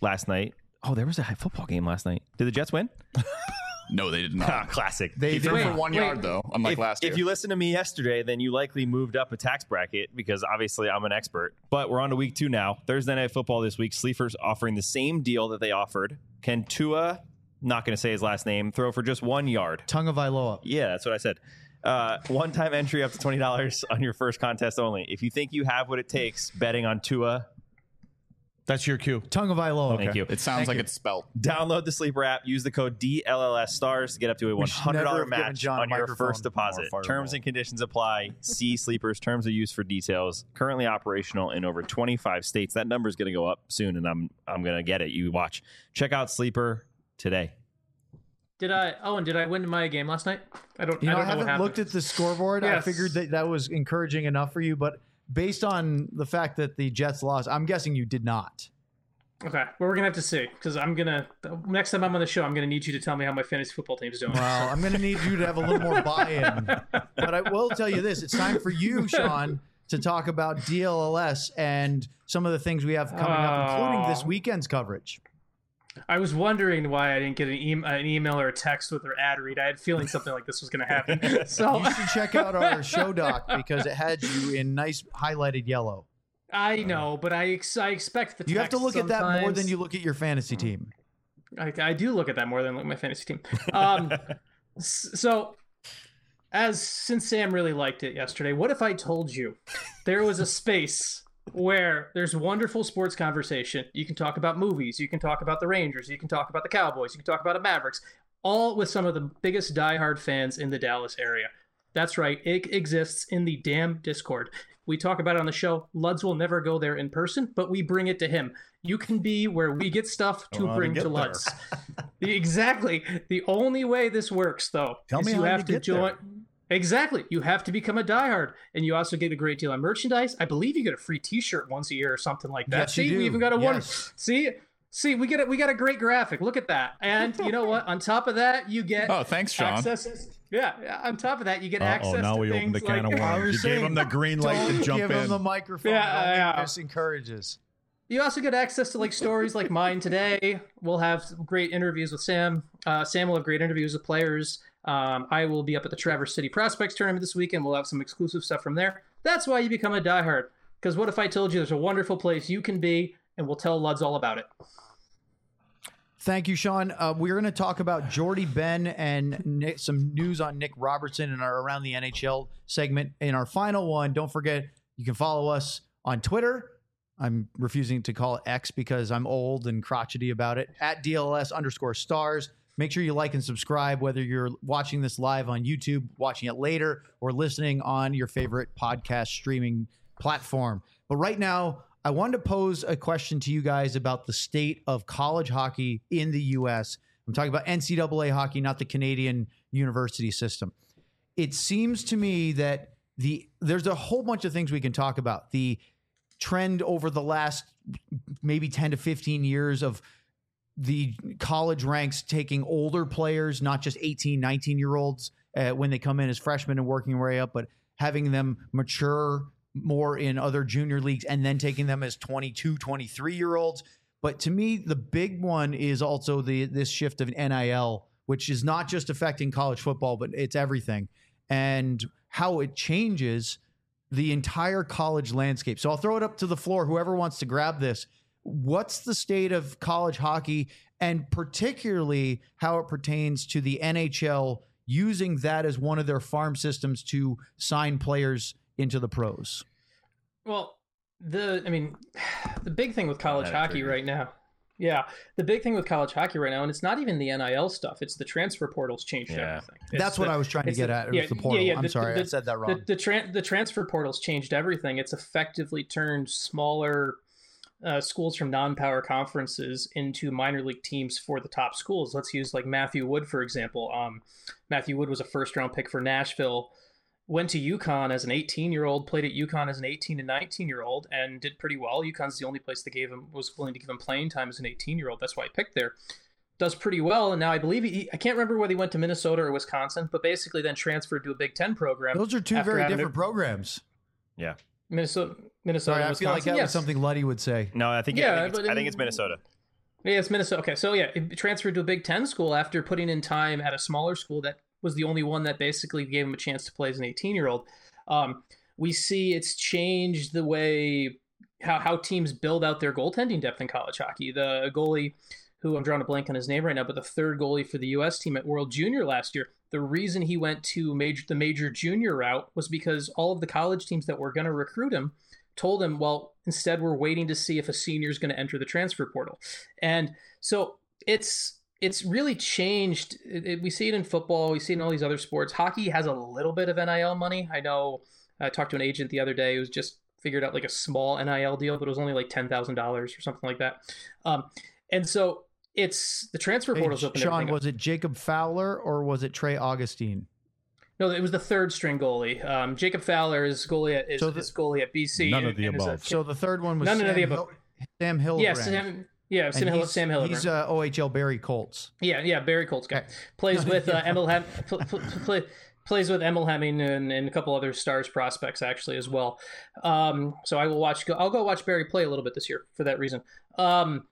last night. Oh, there was a football game last night. Did the Jets win? No, they did Ah, not. classic. They He did threw for not. one wait. yard though, unlike if, last year. if you listened to me yesterday, then you likely moved up a tax bracket because obviously I'm an expert. But we're on to week two now. Thursday Night Football this week. Sleepers offering the same deal that they offered. Can Tua, not going to say his last name, throw for just one yard? Tongue of Iloa. Yeah, that's what I said. Uh, one-time entry up to twenty dollars on your first contest only. If you think you have what it takes betting on Tua, That's your cue. Tongue of Iloa. thank you. it sounds Thank like you. it's spelled. Download the Sleeper app. Use the code D L L S stars to get up to a one should hundred never dollars have given match John a on your microphone. first deposit. Or fireball. Terms and conditions apply. See Sleeper's terms of use for details. Currently operational in over twenty-five states. That number is going to go up soon, and I'm I'm going to get it. You watch. Check out Sleeper today. Did I? Oh, and did I win my game last night? I don't. You know, I I, don't know what haven't happened. looked at the scoreboard. I Yes. figured that that was encouraging enough for you, but based on the fact that the Jets lost, I'm guessing you did not. Okay, well, we're gonna have to see because I'm gonna next time I'm on the show, I'm gonna need you to tell me how my fantasy football team's doing. Well, I'm going to need you to have a little more buy-in. But I will tell you this: it's time for you, Sean, to talk about D L L S and some of the things we have coming up, including this Oh. weekend's coverage. I was wondering why I didn't get an, e- an email or a text with their ad read. I had a feeling something like this was gonna happen. So You should check out our show doc because it had you in nice highlighted yellow. I know, but I ex- I expect the. You have to text look at that more sometimes. than you look at your fantasy team. I, I do look at that more than look at my fantasy team. Um, s- so, as since Sam really liked it yesterday, what if I told you there was a space where there's wonderful sports conversation? You can talk about movies, you can talk about the Rangers, you can talk about the Cowboys, you can talk about the Mavericks, all with some of the biggest diehard fans in the Dallas area. That's right, it exists in the damn Discord. We talk about it on the show. Luds will never go there in person, but we bring it to him. You can be where we get stuff to Well, to bring get to there. Luds. Exactly. The only way this works, though, Tell is me you how have you to get join. there. Exactly. You have to become a diehard, and you also get a great deal on merchandise. I believe you get a free T-shirt once a year or something like that. Yes, you See, do. we even got a one. Yes. See, see, we get it. We got a great graphic. Look at that. And you know what? On top of that, you get Oh, thanks, Sean. access. Yeah, yeah. On top of that, you get Uh-oh, access. now to we opened things the can like, of I worms. was You gave saying, him the green light Don't to jump give in. him the microphone. Yeah, It only yeah. just encourages. You also get access to like stories like mine today. We'll have some great interviews with Sam. Uh, Sam will have great interviews with players. Um, I will be up at the Traverse City Prospects Tournament this weekend. We'll have some exclusive stuff from there. That's why you become a diehard. Because what if I told you there's a wonderful place you can be, and we'll tell Luds all about it. Thank you, Sean. Uh, we're going to talk about Jordy Ben and Nick, some news on Nick Robertson in our Around the N H L segment. In our final one, don't forget, you can follow us on Twitter. I'm refusing to call it X because I'm old and crotchety about it. At D L S underscore stars. Make sure you like and subscribe, whether you're watching this live on YouTube, watching it later, or listening on your favorite podcast streaming platform. But right now, I wanted to pose a question to you guys about the state of college hockey in the U S. I'm talking about N C double A hockey, not the Canadian university system. It seems to me that the there's a whole bunch of things we can talk about. The trend over the last maybe ten to fifteen years of the college ranks taking older players, not just eighteen, nineteen year olds uh, when they come in as freshmen and working their way up, but having them mature more in other junior leagues and then taking them as twenty-two, twenty-three year olds. But to me, the big one is also the this shift of N I L, which is not just affecting college football, but it's everything, and how it changes the entire college landscape. So I'll throw it up to the floor. Whoever wants to grab this. What's the state of college hockey, and particularly how it pertains to the N H L using that as one of their farm systems to sign players into the pros? Well, the I mean, the big thing with college that hockey triggered. right now. Yeah, the big thing with college hockey right now, and it's not even the N I L stuff. It's the transfer portal's changed Yeah. everything. It's That's what the- I was trying to it's get the- at. It yeah, was the portal. yeah, yeah, I'm the- sorry, the- I said that wrong. The the, tran the transfer portal's changed everything. It's effectively turned smaller uh, schools from non-power conferences into minor league teams for the top schools. Let's use like Matthew Wood, for example. Um, Matthew Wood was a first-round pick for Nashville. Went to UConn as an eighteen-year-old, played at UConn as an eighteen and nineteen-year-old, and did pretty well. UConn's the only place that gave him was willing to give him playing time as an eighteen-year-old. That's why he picked there. Does pretty well, and now I believe he, I can't remember whether he went to Minnesota or Wisconsin, but basically then transferred to a Big Ten program. Those are two after very having different to- programs. Yeah. Minnesota, Minnesota, Sorry, I and feel like Wisconsin. that yes. was something Luddy would say. No, I think, Yeah, I, think it's, but I think it's in- Minnesota. Yeah, it's Minnesota. Okay, so yeah, it transferred to a Big Ten school after putting in time at a smaller school that was the only one that basically gave him a chance to play as an eighteen-year-old. Um, we see it's changed the way how, how teams build out their goaltending depth in college hockey. The goalie, who I'm drawing a blank on his name right now, but the third goalie for the U S team at World Junior last year, the reason he went to major the major junior route was because all of the college teams that were going to recruit him told him, well, instead we're waiting to see if a senior is going to enter the transfer portal. And so it's it's really changed. It, it, we see it in football. We see it in all these other sports. Hockey has a little bit of N I L money. I know I talked to an agent the other day who's just figured out like a small N I L deal, but it was only like ten thousand dollars or something like that. Um, and so it's the transfer portal's Hey, open. Sean, was it Jacob Fowler or was it Trey Augustine? No, it was the third string goalie. Um, Jacob Fowler is goalie at is, So the- is goalie at B C. None of and- the and is a- above. So the third one was None Sam, of the above. Hill, Sam Hill. yeah, Sam, yeah, Sam Hill, he's, Sam Hillenbrand. He's uh, O H L Barry Colts. Yeah, yeah, Barry Colts guy. Okay. Plays with uh, Emil Hem- pl- pl- play, plays with Emil Hemming and, and a couple other Stars prospects actually as well. Um, so I will watch. I'll go watch Barry play a little bit this year for that reason. Um,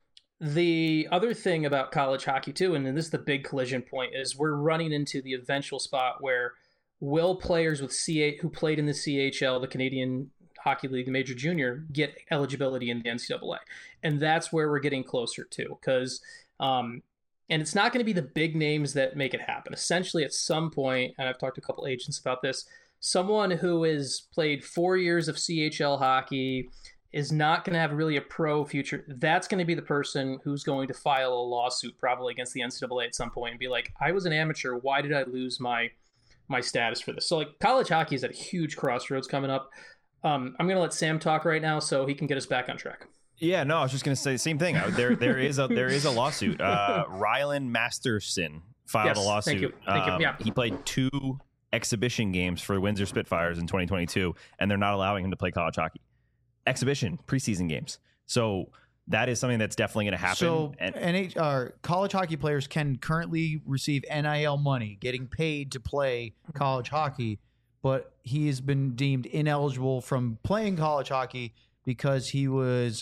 the other thing about college hockey too, and this is the big collision point, is we're running into the eventual spot where will players with C eight who played in the C H L, the Canadian Hockey League, the Major Junior, get eligibility in the N C double A, and that's where we're getting closer to because. Um, And it's not going to be the big names that make it happen. Essentially, at some point, and I've talked to a couple agents about this, someone who has played four years of C H L hockey is not going to have really a pro future. That's going to be the person who's going to file a lawsuit probably against the N C double A at some point and be like, I was an amateur. Why did I lose my my status for this? So like college hockey is at a huge crossroads coming up. Um, I'm going to let Sam talk right now so he can get us back on track. Yeah, no, I was just going to say the same thing. There, there is a there is a lawsuit. Uh, Rylan Masterson filed Yes, a thank lawsuit. you. Thank you. Um, Yeah. He played two exhibition games for the Windsor Spitfires in twenty twenty-two, and they're not allowing him to play college hockey. Exhibition preseason games. So that is something that's definitely going to happen. So and, N H uh, college hockey players can currently receive N I L money, getting paid to play college hockey, but he has been deemed ineligible from playing college hockey because he was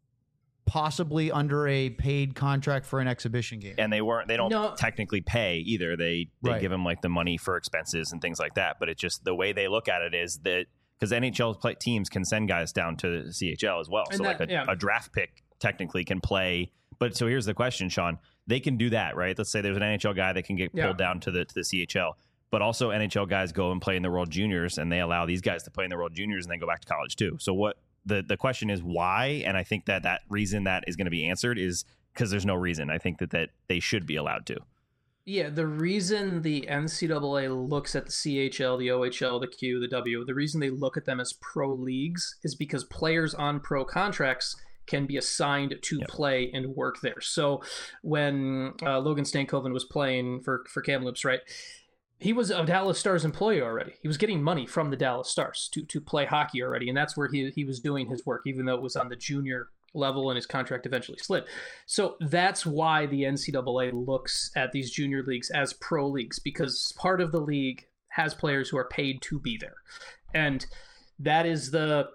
possibly under a paid contract for an exhibition game. and they weren't they don't No. technically pay either. They they Right. give him like the money for expenses and things like that. But it's just the way they look at it is that because N H L play, teams can send guys down to C H L as well. And so that- like a, yeah. a draft pick technically can play. But so here's the question, Sean. They can do that, right? Let's say there's an N H L guy that can get Yeah. pulled down to the to the C H L. But also N H L guys go and play in the World Juniors, and they allow these guys to play in the World Juniors and then go back to college too. So what the the question is why? And I think that that reason that is going to be answered is because there's no reason. I think that that they should be allowed to. Yeah, the reason the N C double A looks at the C H L, the O H L, the Q, the W, the reason they look at them as pro leagues is because players on pro contracts can be assigned to Yep. play and work there. So when uh, Logan Stankoven was playing for, for Kamloops, right, he was a Dallas Stars employee already. He was getting money from the Dallas Stars to, to play hockey already, and that's where he, he was doing his work, even though it was on the junior level and his contract eventually slid. So that's why the N C double A looks at these junior leagues as pro leagues, because part of the league has players who are paid to be there. And that is the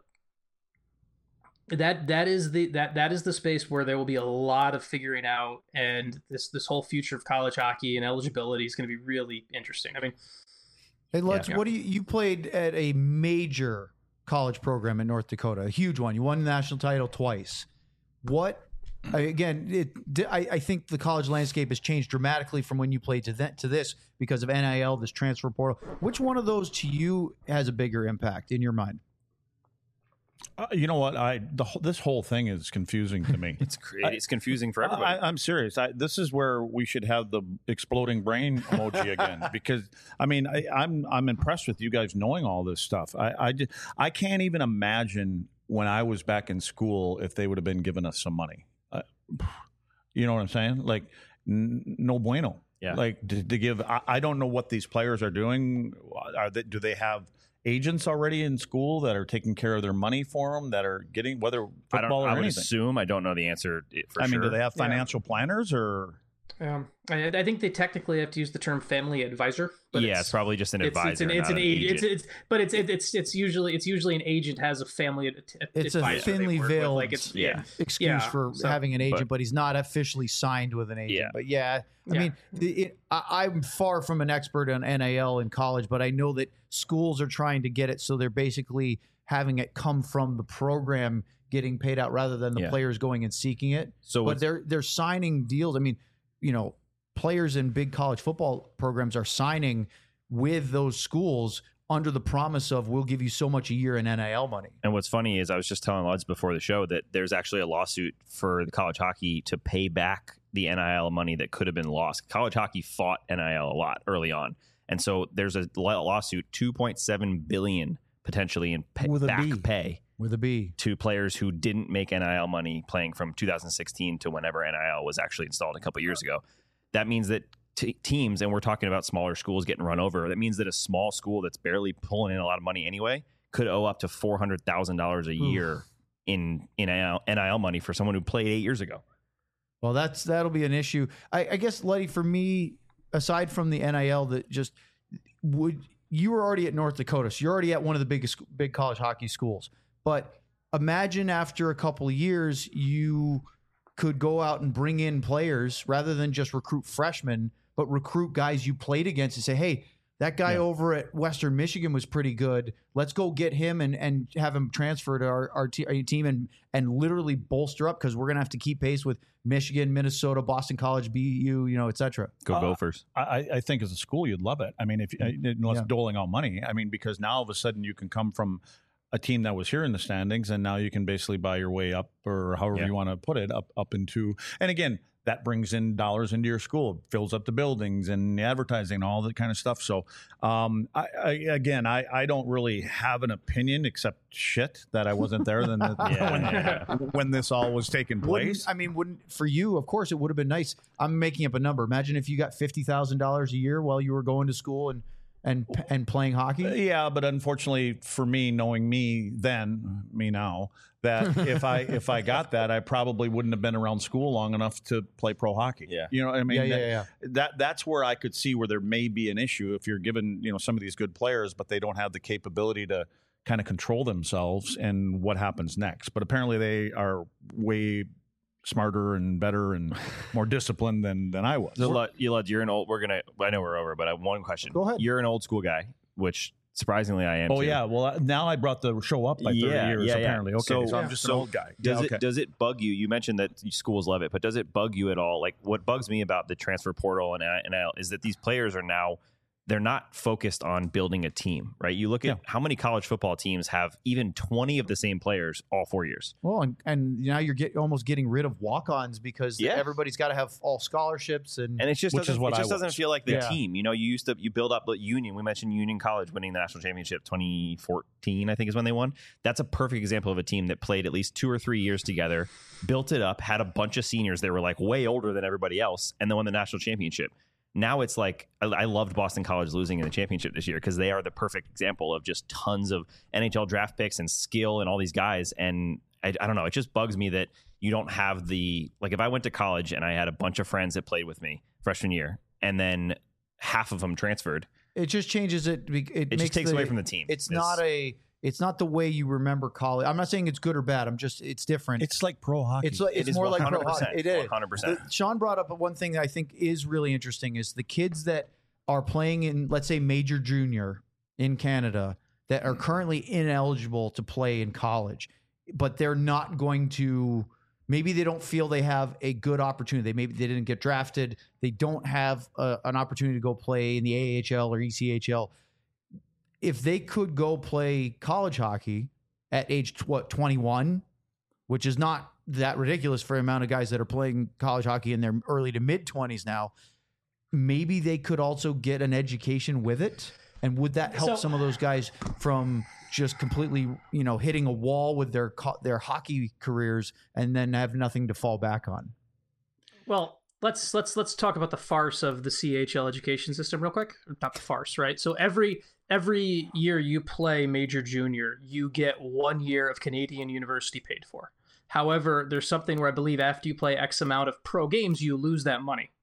that that is the that that is the space where there will be a lot of figuring out, and this this whole future of college hockey and eligibility is going to be really interesting. I mean, Hey, Lutz, Yeah. what do you you played at a major college program in North Dakota, a huge one. You won the national title twice. What I- again? It I, I think the college landscape has changed dramatically from when you played to that to this because of N I L, this transfer portal. Which one of those to you has a bigger impact in your mind? Uh, you know what? I the whole- this whole thing is confusing to me. It's cr- it's confusing for everybody. I, I'm serious. I, this is where we should have the exploding brain emoji again, because I mean, I, I'm I'm impressed with you guys knowing all this stuff. I I, ju- I can't even imagine when I was back in school if they would have been giving us some money. Uh, you know what I'm saying? Like, n- no bueno. Yeah. Like to, to give. I, I don't know what these players are doing. Are they, do they have agents already in school that are taking care of their money for them, that are getting whether I don't. football or I would anything? assume I don't know the answer i- for I sure. mean, do they have financial planners or? Um, I, I think they technically have to use the term family advisor. But yeah, it's, probably just an it's, advisor. It's an, it's not an an agent. agent. It's, it's but it's it, it's it's usually it's usually an agent has a family ad- ad- It's a advisor they thinly work with. veiled like it's yeah. excuse Yeah, for so- having an agent, but- but, he's not officially signed with an agent. Yeah. But yeah, I Yeah. mean, the, it, I, I'm far from an expert on N I L in college, but I know that schools are trying to get it, so they're basically having it come from the program getting paid out rather than the Yeah. players going and seeking it. So but what's- they're they're signing deals. I mean, you know, players in big college football programs are signing with those schools under the promise of we'll give you so much a year in N I L money. And what's funny is I was just telling Luds before the show that there's actually a lawsuit for the college hockey to pay back the N I L money that could have been lost. College hockey fought N I L a lot early on. And so there's a lawsuit, two point seven billion dollars potentially in pay, With a back B. pay With a B. to players who didn't make N I L money playing from two thousand sixteen to whenever N I L was actually installed a couple years ago. That means that t- teams, and we're talking about smaller schools getting run over, that means that a small school that's barely pulling in a lot of money anyway could owe up to four hundred thousand dollars a year in, in N I L, N I L money for someone who played eight years ago. Well, that's that'll be an issue. I, I guess, Letty, for me, aside from the N I L, that just would you were already at North Dakota, so you're already at one of the biggest big college hockey schools. But imagine after a couple of years, you could go out and bring in players rather than just recruit freshmen, but recruit guys you played against and say, hey, that guy Yeah. over at Western Michigan was pretty good. Let's go get him and, and have him transfer to our, our, te- our team and, and literally bolster up because we're going to have to keep pace with Michigan, Minnesota, Boston College, B U, you know, et cetera. Go Uh, Gophers. I, I think as a school, you'd love it. I mean, if unless Yeah. doling out money, I mean, because now all of a sudden you can come from a team that was here in the standings, and now you can basically buy your way up, or however Yeah. you want to put it, up up into. And again, that brings in dollars into your school, fills up the buildings and the advertising and all that kind of stuff. So, um, I, I again, I, I don't really have an opinion except shit that I wasn't there then the, Yeah, when, yeah. when this all was taking Wouldn't, place. I mean, wouldn't for you? Of course, it would have been nice. I'm making up a number. Imagine if you got fifty thousand dollars a year while you were going to school and and and playing hockey. Yeah, but unfortunately for me, knowing me then, me now, that if I if I got that, I probably wouldn't have been around school long enough to play pro hockey. Yeah. You know what I mean? Yeah, yeah, that, yeah. that that's where I could see where there may be an issue if you're given, you know, some of these good players, but they don't have the capability to kind of control themselves and what happens next. But apparently they are way smarter and better and more disciplined than than I was. So, Lud, you Lud, you're an old. We're gonna. I know we're over, but I have one question. Go ahead. You're an old school guy, which surprisingly I am. Oh too. yeah, well now I brought the show up by thirty Yeah, years yeah, yeah. apparently. Okay, so, So- I'm just so an old guy. Does Yeah, it okay. does it bug you? You mentioned that schools love it, but does it bug you at all? Like what bugs me about the transfer portal and N I L is that these players are now they're not focused on building a team, right? You look at Yeah. how many college football teams have even twenty of the same players all four years. Well, and, and now you're get, almost getting rid of walk-ons because Yeah. everybody's got to have all scholarships and, And it's just Which doesn't, is what it I just doesn't was. feel like the Yeah. team. You know, you used to you build up the Union. We mentioned Union College winning the national championship twenty fourteen, I think is when they won. That's a perfect example of a team that played at least two or three years together, built it up, had a bunch of seniors that were like way older than everybody else, and then won the national championship. Now it's like I, I loved Boston College losing in the championship this year because they are the perfect example of just tons of N H L draft picks and skill and all these guys. And I, I don't know, it just bugs me that you don't have the like. If I went to college and I had a bunch of friends that played with me freshman year, and then half of them transferred, it just changes it. It, it makes just takes the- away from the team. It's not a. It's not the way you remember college. I'm not saying it's good or bad. I'm just. It's different. It's like pro hockey. It's like It it's is more like pro one hundred percent, hockey. It is. one hundred percent. The- Sean brought up one thing that I think is really interesting is the kids that are playing in, let's say, major junior in Canada that are currently ineligible to play in college, but they're not going to. Maybe they don't feel they have a good opportunity. They maybe they didn't get drafted. They don't have a, an opportunity to go play in the A H L or E C H L. If they could go play college hockey at age tw- what twenty-one, which is not that ridiculous for the amount of guys that are playing college hockey in their early to mid twenties now, maybe they could also get an education with it. And would that help So- some of those guys from just completely, you know, hitting a wall with their co- their hockey careers and then have nothing to fall back on? Well, let's let's let's talk about the farce of the C H L education system real quick. Not the farce, right? So every every year you play major junior, you get one year of Canadian university paid for. However, there's something where I believe after you play X amount of pro games, you lose that money.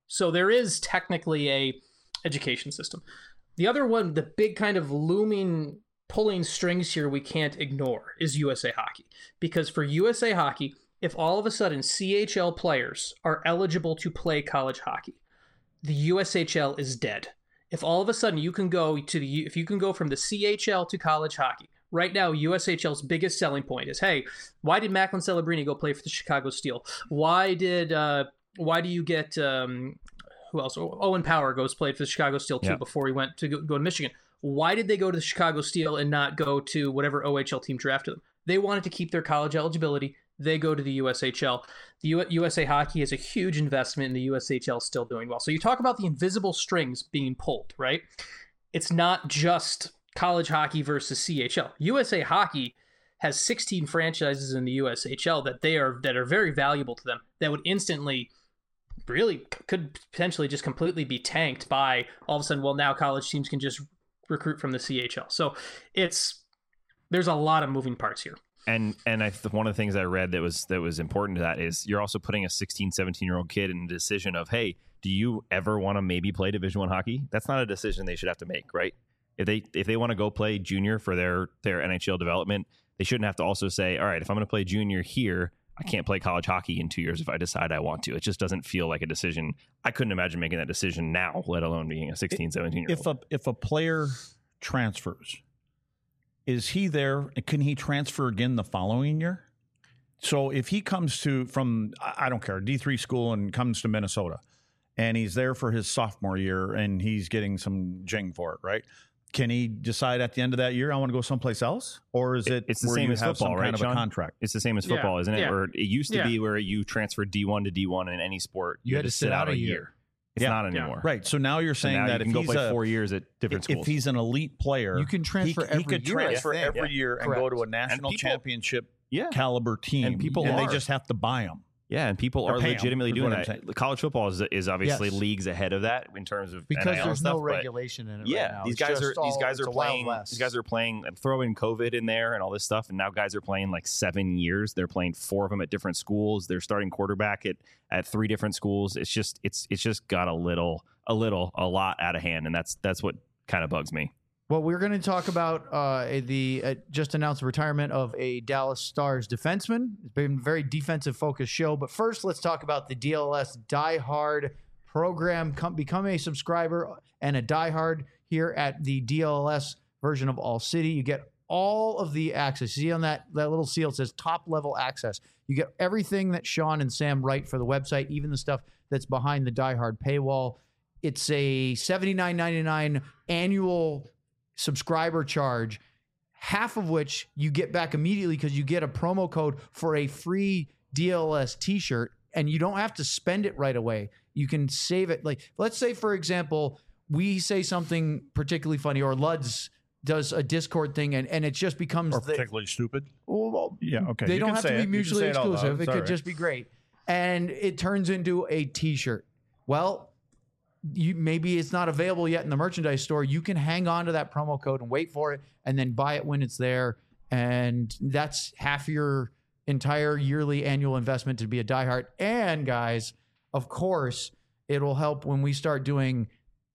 So there is technically a education system. The other one, the big kind of looming pulling strings here we can't ignore is U S A Hockey. Because for U S A Hockey, if all of a sudden C H L players are eligible to play college hockey, the U S H L is dead. If all of a sudden you can go to the if you can go from the C H L to college hockey, right now U S H L's biggest selling point is, hey, why did Macklin Celebrini go play for the Chicago Steel? Why did uh, why do you get um, who else? Owen Power goes played for the Chicago Steel too Yeah. before he went to go, go to Michigan. Why did they go to the Chicago Steel and not go to whatever O H L team drafted them? They wanted to keep their college eligibility. They go to the U S H L. The U- USA Hockey is a huge investment, and the U S H L is still doing well. So you talk about the invisible strings being pulled, right? It's not just college hockey versus C H L. U S A Hockey has sixteen franchises in the U S H L that they are that are very valuable to them, that would instantly really could potentially just completely be tanked by all of a sudden, well, now college teams can just recruit from the C H L. So it's there's a lot of moving parts here. And and I one of the things I read that was that was important to that is you're also putting a sixteen, seventeen year old kid in a decision of, hey, do you ever want to maybe play Division One hockey? That's not a decision they should have to make, right? If they if they want to go play junior for their their N H L development, they shouldn't have to also say, all right, if I'm going to play junior here, I can't play college hockey in two years if I decide I want to. It just doesn't feel like a decision. I couldn't imagine making that decision now, let alone being a sixteen, seventeen year old. If a if a player transfers, is he there? Can he transfer again the following year? So if he comes to from I don't care D three school and comes to Minnesota, and he's there for his sophomore year and he's getting some jing for it, right? Can he decide at the end of that year I want to go someplace else, or is it? It's the where same you as have football, some right, kind of Sean? a contract. It's the same as Yeah, football, isn't it? yeah. Where it used to Yeah. be where you transferred D one to D one in any sport, you, had to sit out a year. It's Yeah. not Yeah. anymore. Right. So now you're So saying now that you if can go he's play a, four years at different if schools. he's an elite player, You can transfer he, every he could year, I transfer think. every Yeah. year and Correct. go to a national people- championship yeah. caliber team, And people and they are. just have to buy them. Yeah, and people Or are pay 'em, legitimately is doing what I'm that. saying. College football is, is obviously Yes. leagues ahead of that in terms of because N I L there's stuff, no but regulation in it yeah, right now. these It's guys just are these all- guys it's are a Wild playing. West. These guys are playing. And throw in COVID in there and all this stuff, and now guys are playing like seven years. They're playing four of them at different schools. They're starting quarterback at at three different schools. It's just it's it's just got a little a little a lot out of hand, and that's that's what kind of bugs me. Well, we're going to talk about uh, the uh, just announced retirement of a Dallas Stars defenseman. It's been a very defensive focused show. But first, let's talk about the D L S Die Hard program. Come, become a subscriber and a Die Hard here at the D L S version of All City. You get all of the access. You see on that, that little seal, it says top level access. You get everything that Sean and Sam write for the website, even the stuff that's behind the Die Hard paywall. It's a seventy-nine ninety-nine annual subscriber charge, half of which you get back immediately because you get a promo code for a free D L S t-shirt, and you don't have to spend it right away. You can save it. Like, let's say, for example, we say something particularly funny, or Luds does a Discord thing, and, and it just becomes Or the, particularly stupid. well, Yeah, okay. they You don't can have say to it. be You can mutually say it out loud. exclusive. It It's could all right. just be great. And it turns into a t-shirt. Well, you maybe it's not available yet in the merchandise store. You can hang on to that promo code and wait for it and then buy it when it's there. And that's half your entire yearly annual investment to be a diehard. And guys, of course, it'll help when we start doing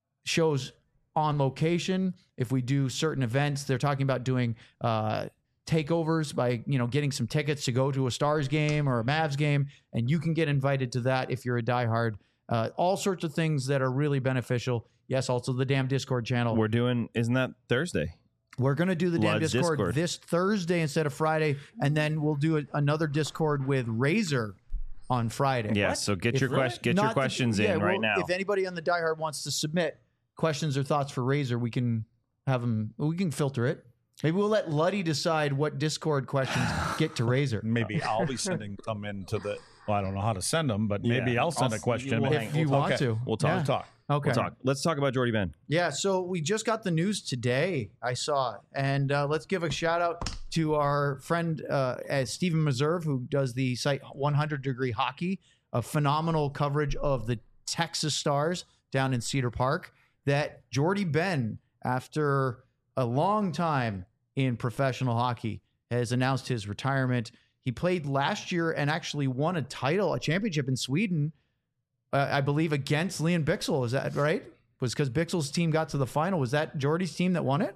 shows on location. If we do certain events, they're talking about doing uh, takeovers by, you know, getting some tickets to go to a Stars game or a Mavs game. And you can get invited to that if you're a diehard. Uh, all sorts of things that are really beneficial. Yes, also the damn Discord channel. We're doing. Isn't that Thursday? We're going to do the damn Lud's Discord, Discord. this Thursday instead of Friday, and then we'll do a, another Discord with Razor on Friday. Yeah. So get If- your question. Get Not your the- questions yeah, in well, right now. If anybody on the Die Hard wants to submit questions or thoughts for Razor, we can have them. We can filter it. Maybe we'll let Luddy decide what Discord questions get to Razor. Maybe I'll be sending them into the. Well, I don't know how to send them, but maybe Yeah. I'll send I'll- a question. we'll If hang- you we'll want okay. to, We'll talk. Yeah. We'll talk. Okay. We'll talk. Let's talk about Jordy Ben. Yeah, so we just got the news today. I saw it. And uh, let's give a shout out to our friend uh, uh, Stephen Meserve, who does the site one hundred Degree Hockey, a phenomenal coverage of the Texas Stars down in Cedar Park, that Jordy Ben, after a long time in professional hockey, has announced his retirement. He played last year and actually won a title, a championship in Sweden. uh, I believe, against Leon Bixel. Is that right? Was because Bixel's team got to the final. Was that Jordy's team that won it?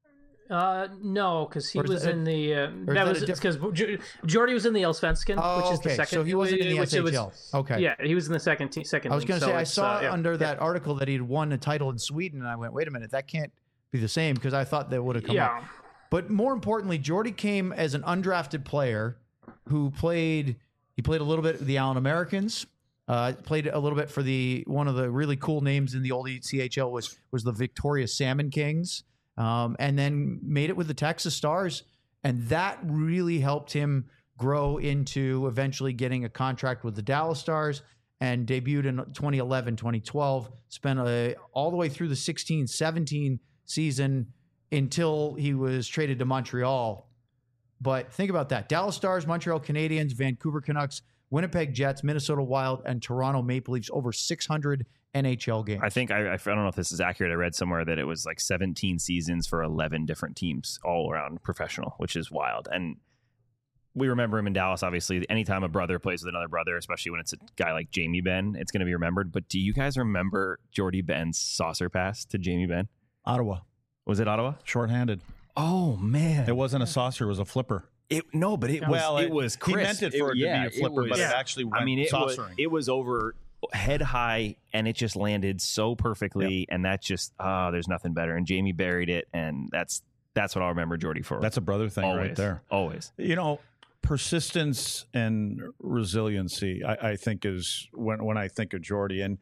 Uh, no, because he Or is was that- in the. Uh, is that that a was diff- because Jordy was in the Allsvenskan, Oh, which is okay. the second. So he wasn't in the which it was- S H L. Okay. Yeah, he was in the second team. Second. I was going to team, say, so I it's, saw uh, yeah. under that article that he'd won a title in Sweden, and I went, wait a minute, that can't be the same because I thought that would have come Yeah. up. But more importantly, Jordy came as an undrafted player who played. He played a little bit with the Allen Americans. Uh, played a little bit for the one of the really cool names in the old C H L was was the Victoria Salmon Kings, um, and then made it with the Texas Stars, and that really helped him grow into eventually getting a contract with the Dallas Stars, and debuted in twenty eleven, twenty twelve. Spent a, all the way through the sixteen seventeen season until he was traded to Montreal. But think about that. Dallas Stars, Montreal Canadiens, Vancouver Canucks, Winnipeg Jets, Minnesota Wild, and Toronto Maple Leafs, over six hundred N H L games. I think I, I don't know if this is accurate. I read somewhere that it was like seventeen seasons for eleven different teams all around professional, which is wild. And we remember him in Dallas, obviously. Anytime a brother plays with another brother, especially when it's a guy like Jamie Benn, it's going to be remembered. But do you guys remember Jordy Benn's saucer pass to Jamie Benn? Ottawa, Was it Ottawa? shorthanded. Oh, man. It wasn't a saucer; it was a flipper. It, no, but it was Well, it, it- was he crisp. meant it for it to yeah, be a flipper, was- but it actually went I mean, it was, saucering. it was over head high, and it just landed so perfectly, and that just oh, there's nothing better. And Jamie buried it, and that's that's what I'll remember Jordy for. That's a brother thing always, right there. Always. You know, persistence and resiliency, I, I think, is when when I think of Jordy. And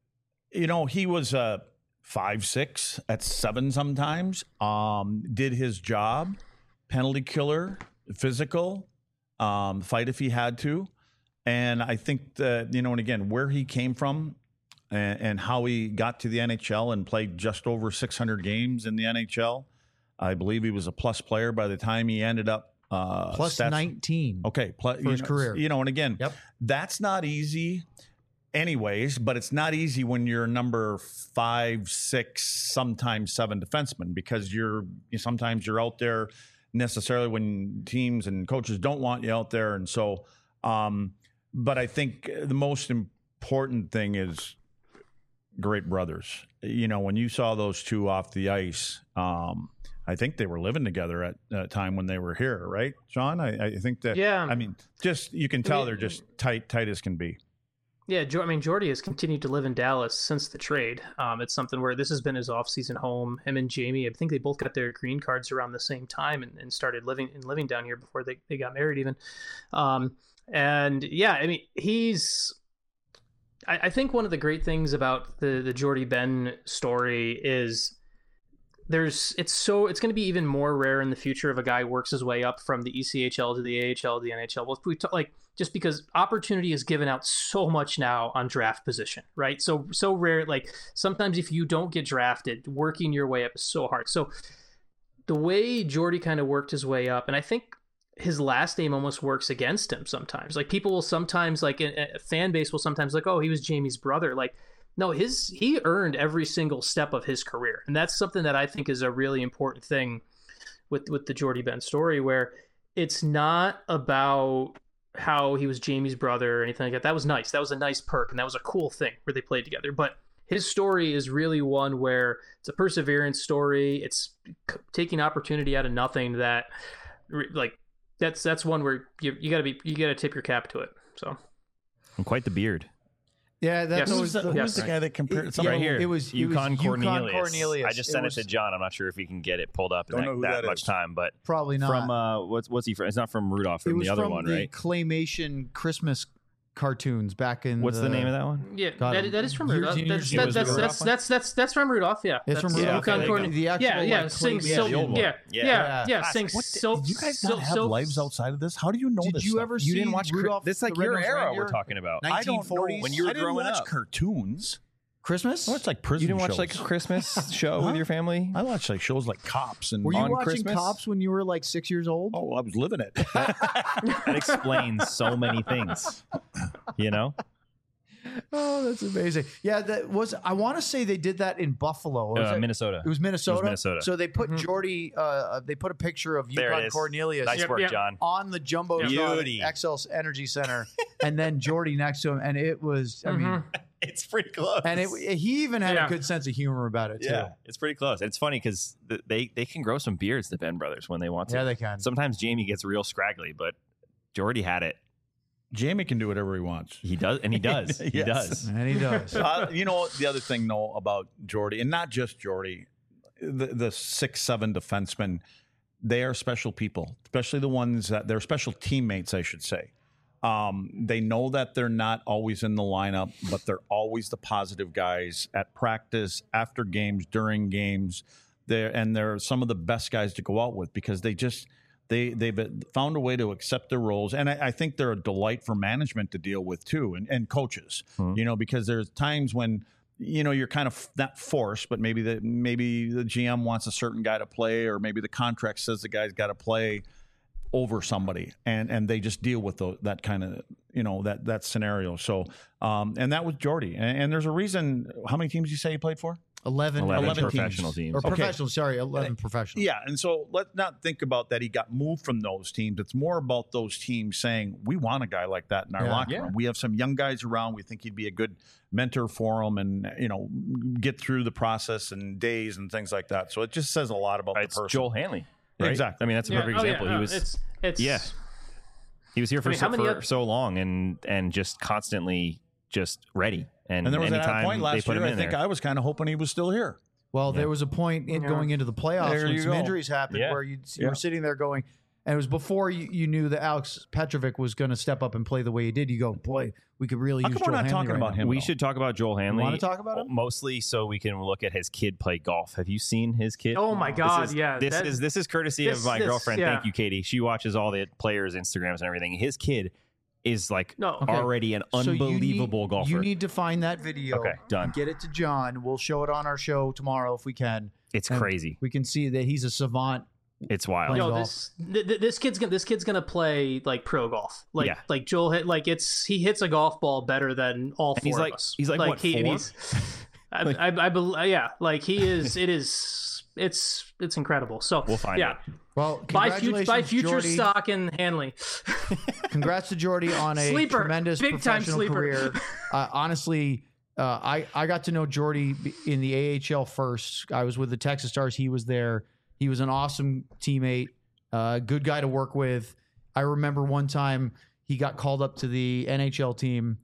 you know, he was uh, five six at seven sometimes. Um, did his job, penalty killer, physical, um, fight if he had to. And I think that, you know, and again, where he came from and, and how he got to the N H L and played just over six hundred games in the N H L. I believe he was a plus player by the time he ended up uh, Plus stats- nineteen. Okay, plus, for his you know, career. You know, and again, Yep. that's not easy, anyways. But it's not easy when you're number five, six, sometimes seven defenseman because you're sometimes you're out there necessarily when teams and coaches don't want you out there, and so. Um, but I think the most important thing is great brothers. You know, when you saw those two off the ice, um, I think they were living together at a time when they were here, right, Sean? I, I think that. Yeah. I mean, just you can tell mean- they're just tight, tight as can be. Yeah, Jo- I mean, Jordy has continued to live in Dallas since the trade. Um, it's something where this has been his off-season home. Him and Jamie, I think they both got their green cards around the same time and, and started living and living down here before they, they got married even. Um, and yeah, I mean, he's... I, I think one of the great things about the, the Jordy Benn story is there's it's so it's going to be even more rare in the future if a guy works his way up from the E C H L to the A H L to the N H L. Well, we talk, like just because opportunity is given out so much now on draft position, right? So so rare. Like sometimes if you don't get drafted, working your way up is so hard. So the way Jordy kind of worked his way up, and I think his last name almost works against him sometimes. Like people will sometimes like a, a fan base will sometimes like, oh, he was Jamie's brother. Like no, his he earned every single step of his career, and that's something that I think is a really important thing with with the Jordy Benn story, where it's not about how he was Jamie's brother or anything like that. That was nice. That was a nice perk, and that was a cool thing where they played together. But his story is really one where it's a perseverance story. It's c- taking opportunity out of nothing. That like that's that's one where you you gotta be you gotta tip your cap to it. So And quite the beard. Yeah, that's Yes. Who's always the, the, who's yes. the guy that compared It- something Right here. It was it was Yukon Cornelius. Cornelius. I just sent it, was to John. I'm not sure if he can get it pulled up in Don't that, know who that that much is. time, but Probably not. from uh, what's what's he from? It's not from Rudolph, it from was the other from one, the right? claymation Christmas cartoons back in. What's the, name of that one? yeah, God, that, that is from years Rudolph. and That's, years that, ago. that's, that's, that's, that's, that's from Rudolph, yeah. It's from That's- Rudolph. Yukon Okay, Corn- the actual, yeah, yeah, like, sing, clay- sil- yeah, the old one. yeah, Yeah. yeah, yeah, Gosh, sing, what sil- the- you guys sil- not have sil- lives outside of this? How do you know Did this you stuff? ever You see didn't watch Rudolph? This like the your Red-Nosed era Reindeer? we're talking about. I don't nineteen forties? When you were I didn't growing watch up. cartoons. Christmas? I watched like prison You didn't watch shows. like a Christmas show Huh? with your family? I watched like shows like Cops and Were you on watching Christmas? Cops when you were like six years old? oh, I was living it. That explains so many things. You know? Oh, that's amazing. Yeah, that was. I want to say they did that in Buffalo. Was Uh, it- Minnesota. It was Minnesota. Minnesota. So they put Mhm. Jordy. Uh, they put a picture of There it Yukon is. Cornelius Nice Yep, work, yep. John. on the jumbotron Beauty. at X L Energy Center, and then Jordy next to him, and it was. I mean, Mhm. It's pretty close. And it, he even had Yeah. a good sense of humor about it too. yeah, it's pretty close. It's funny because they they can grow some beards, the Ben brothers, when they want to. Yeah, they can. Sometimes Jamie gets real scraggly, but Jordy had it. Jamie can do whatever he wants. He does, and he does. He Yes. does. And he does. uh, you know, the other thing, though, about Jordy, and not just Jordy, the, the six, seven defensemen, they are special people, especially the ones that they're special teammates, I should say. Um, they know that they're not always in the lineup, but they're always the positive guys at practice, after games, during games. They're, and they're some of the best guys to go out with because they just – They they've found a way to accept their roles, and I, I think they're a delight for management to deal with too, and, and coaches. Mhm. You know, because there's times when you know you're kind of not forced, but maybe the maybe the G M wants a certain guy to play, or maybe the contract says the guy's got to play over somebody, and and they just deal with the, that kind of you know that that scenario. So, um, and that was Jordy, and, and there's a reason. How many teams you say he played for? eleven, eleven, eleven professional teams. teams. Or Okay. professional, sorry, eleven professional. Yeah, and so let's not think about that he got moved from those teams. It's more about those teams saying, we want a guy like that in our Yeah. locker Yeah. room. We have some young guys around. We think he'd be a good mentor for them and, you know, get through the process and days and things like that. So it just says a lot about It's the person. Joel Hanley. Right? Exactly. I mean, that's a Yeah. perfect Oh, yeah, example. no, he was It's it's Yeah. he was here for, I mean, so, how many for oth- so long and and just constantly just ready. And, And there was at anytime a point they last put year, him I in think there, I was kind of hoping he was still here. Well, Yeah. there was a point in Yeah. going into the playoffs There when you some go. injuries happened Yeah. where you, you Yeah. were sitting there going, and it was before you, you knew that Alex Petrovic was going to step up and play the way he did. You go, boy, we could really How use come we're Joel not Hanley talking right about now. him? we though? should talk about Joel Hanley. wanna talk about him? Mostly so we can look at his kid play golf. Have you seen his kid? Oh my This God, is- yeah, This that- is this is courtesy this- of my this- girlfriend. yeah. Thank you, Katie. She watches all the players' Instagrams and everything. His kid is like No. Okay. already an So you need- unbelievable golfer. You need to find that video. Okay, done. Get it to John. We'll show it on our show tomorrow if we can. it's And crazy. We can see that he's a savant. It's wild. Playing Yo, golf. this th- th- this kid's gonna this kid's gonna play like pro golf. Like Yeah. like Joel hit like it's he hits a golf ball better than all And four he's like- of us. he's like, what, he, and four? he's- I, I, I, bel yeah, like he is. It is. It's it's incredible. So We'll find yeah. it. Well, Buy future congratulations, buy future Jordy. stock in Hanley. Congrats to Jordy on a Sleeper. tremendous Big time professional sleeper. career. Uh, honestly, uh, I I got to know Jordy in the A H L first. I was with the Texas Stars. He was there. He was an awesome teammate, uh, good guy to work with. I remember one time he got called up to the N H L team,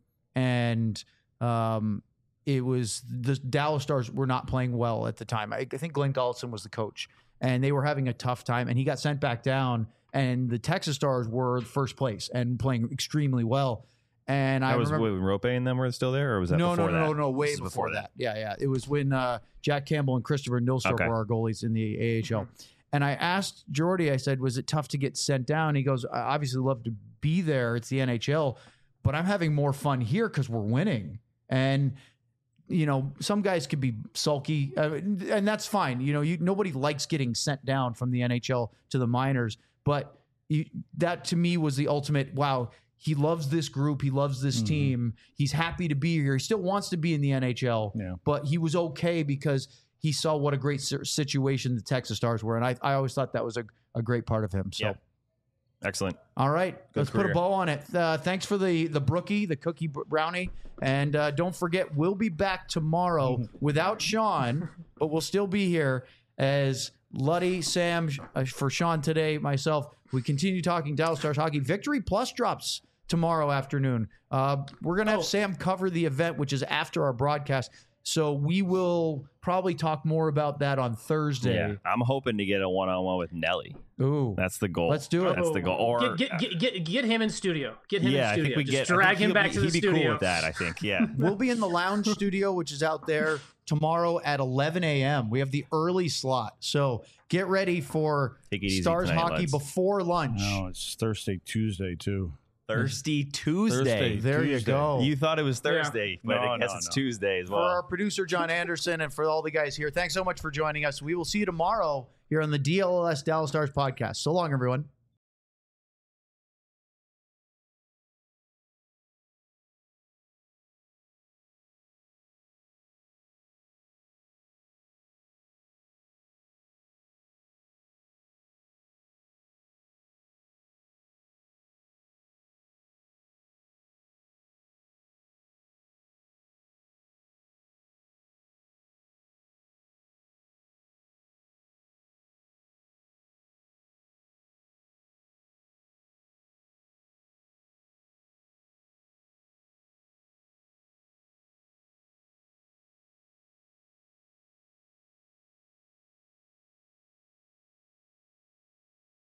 and um, it was the Dallas Stars were not playing well at the time. I, I think Glenn Gollison was the coach, and they were having a tough time. And he got sent back down, and the Texas Stars were first place and playing extremely well. And I That was remember when Rope and them were still there, or was that no, no, before no, that? no, no, way This is before, that. Yeah, yeah. It was when uh, Jack Campbell and Christopher Nilstorp Okay. were our goalies in the A H L. And I asked Jordy, I said, was it tough to get sent down? He goes, I obviously love to be there. It's the N H L, but I'm having more fun here because we're winning. And, you know, some guys could be sulky, uh, and that's fine. You know, you, nobody likes getting sent down from the N H L to the minors. But you, that to me was the ultimate, wow, he loves this group. He loves this Mhm. team. He's happy to be here. He still wants to be in the N H L, Yeah. but he was okay because he saw what a great si- situation the Texas Stars were. And I, I always thought that was a, a great part of him. So, Yeah. Excellent. all right, let's put a career. bow on it. Uh, thanks for the, the brookie, the cookie br- brownie. And uh, don't forget, we'll be back tomorrow without Sean, but we'll still be here as Luddy, Sam, uh, for Sean today, myself. We continue talking Dallas Stars hockey. Victory Plus drops tomorrow afternoon. Uh, we're going to have Oh. Sam cover the event, which is after our broadcast. So we will probably talk more about that on Thursday. Yeah, I'm hoping to get a one-on-one with Nelly. Ooh. That's the goal. Let's do it. That's the goal. Or get, get, get, get him in studio. Get him yeah, in I studio. think we Just get. I drag think him he'll back be, to the he'd be studio. cool with that. I think. Yeah. We'll be in the lounge studio, which is out there tomorrow at eleven a.m. We have the early slot. So get ready for Take it easy Stars tonight, hockey lads. before lunch. No, it's Thursday, Tuesday, too. Thirsty Tuesday. Thursday. There you Tuesday. go. You thought it was Yeah. Thursday, but No, I guess no, it's no. Tuesday as For well. our producer, John Anderson, and for all the guys here, thanks so much for joining us. We will see you tomorrow here on the D L S Dallas Stars podcast. So long, everyone.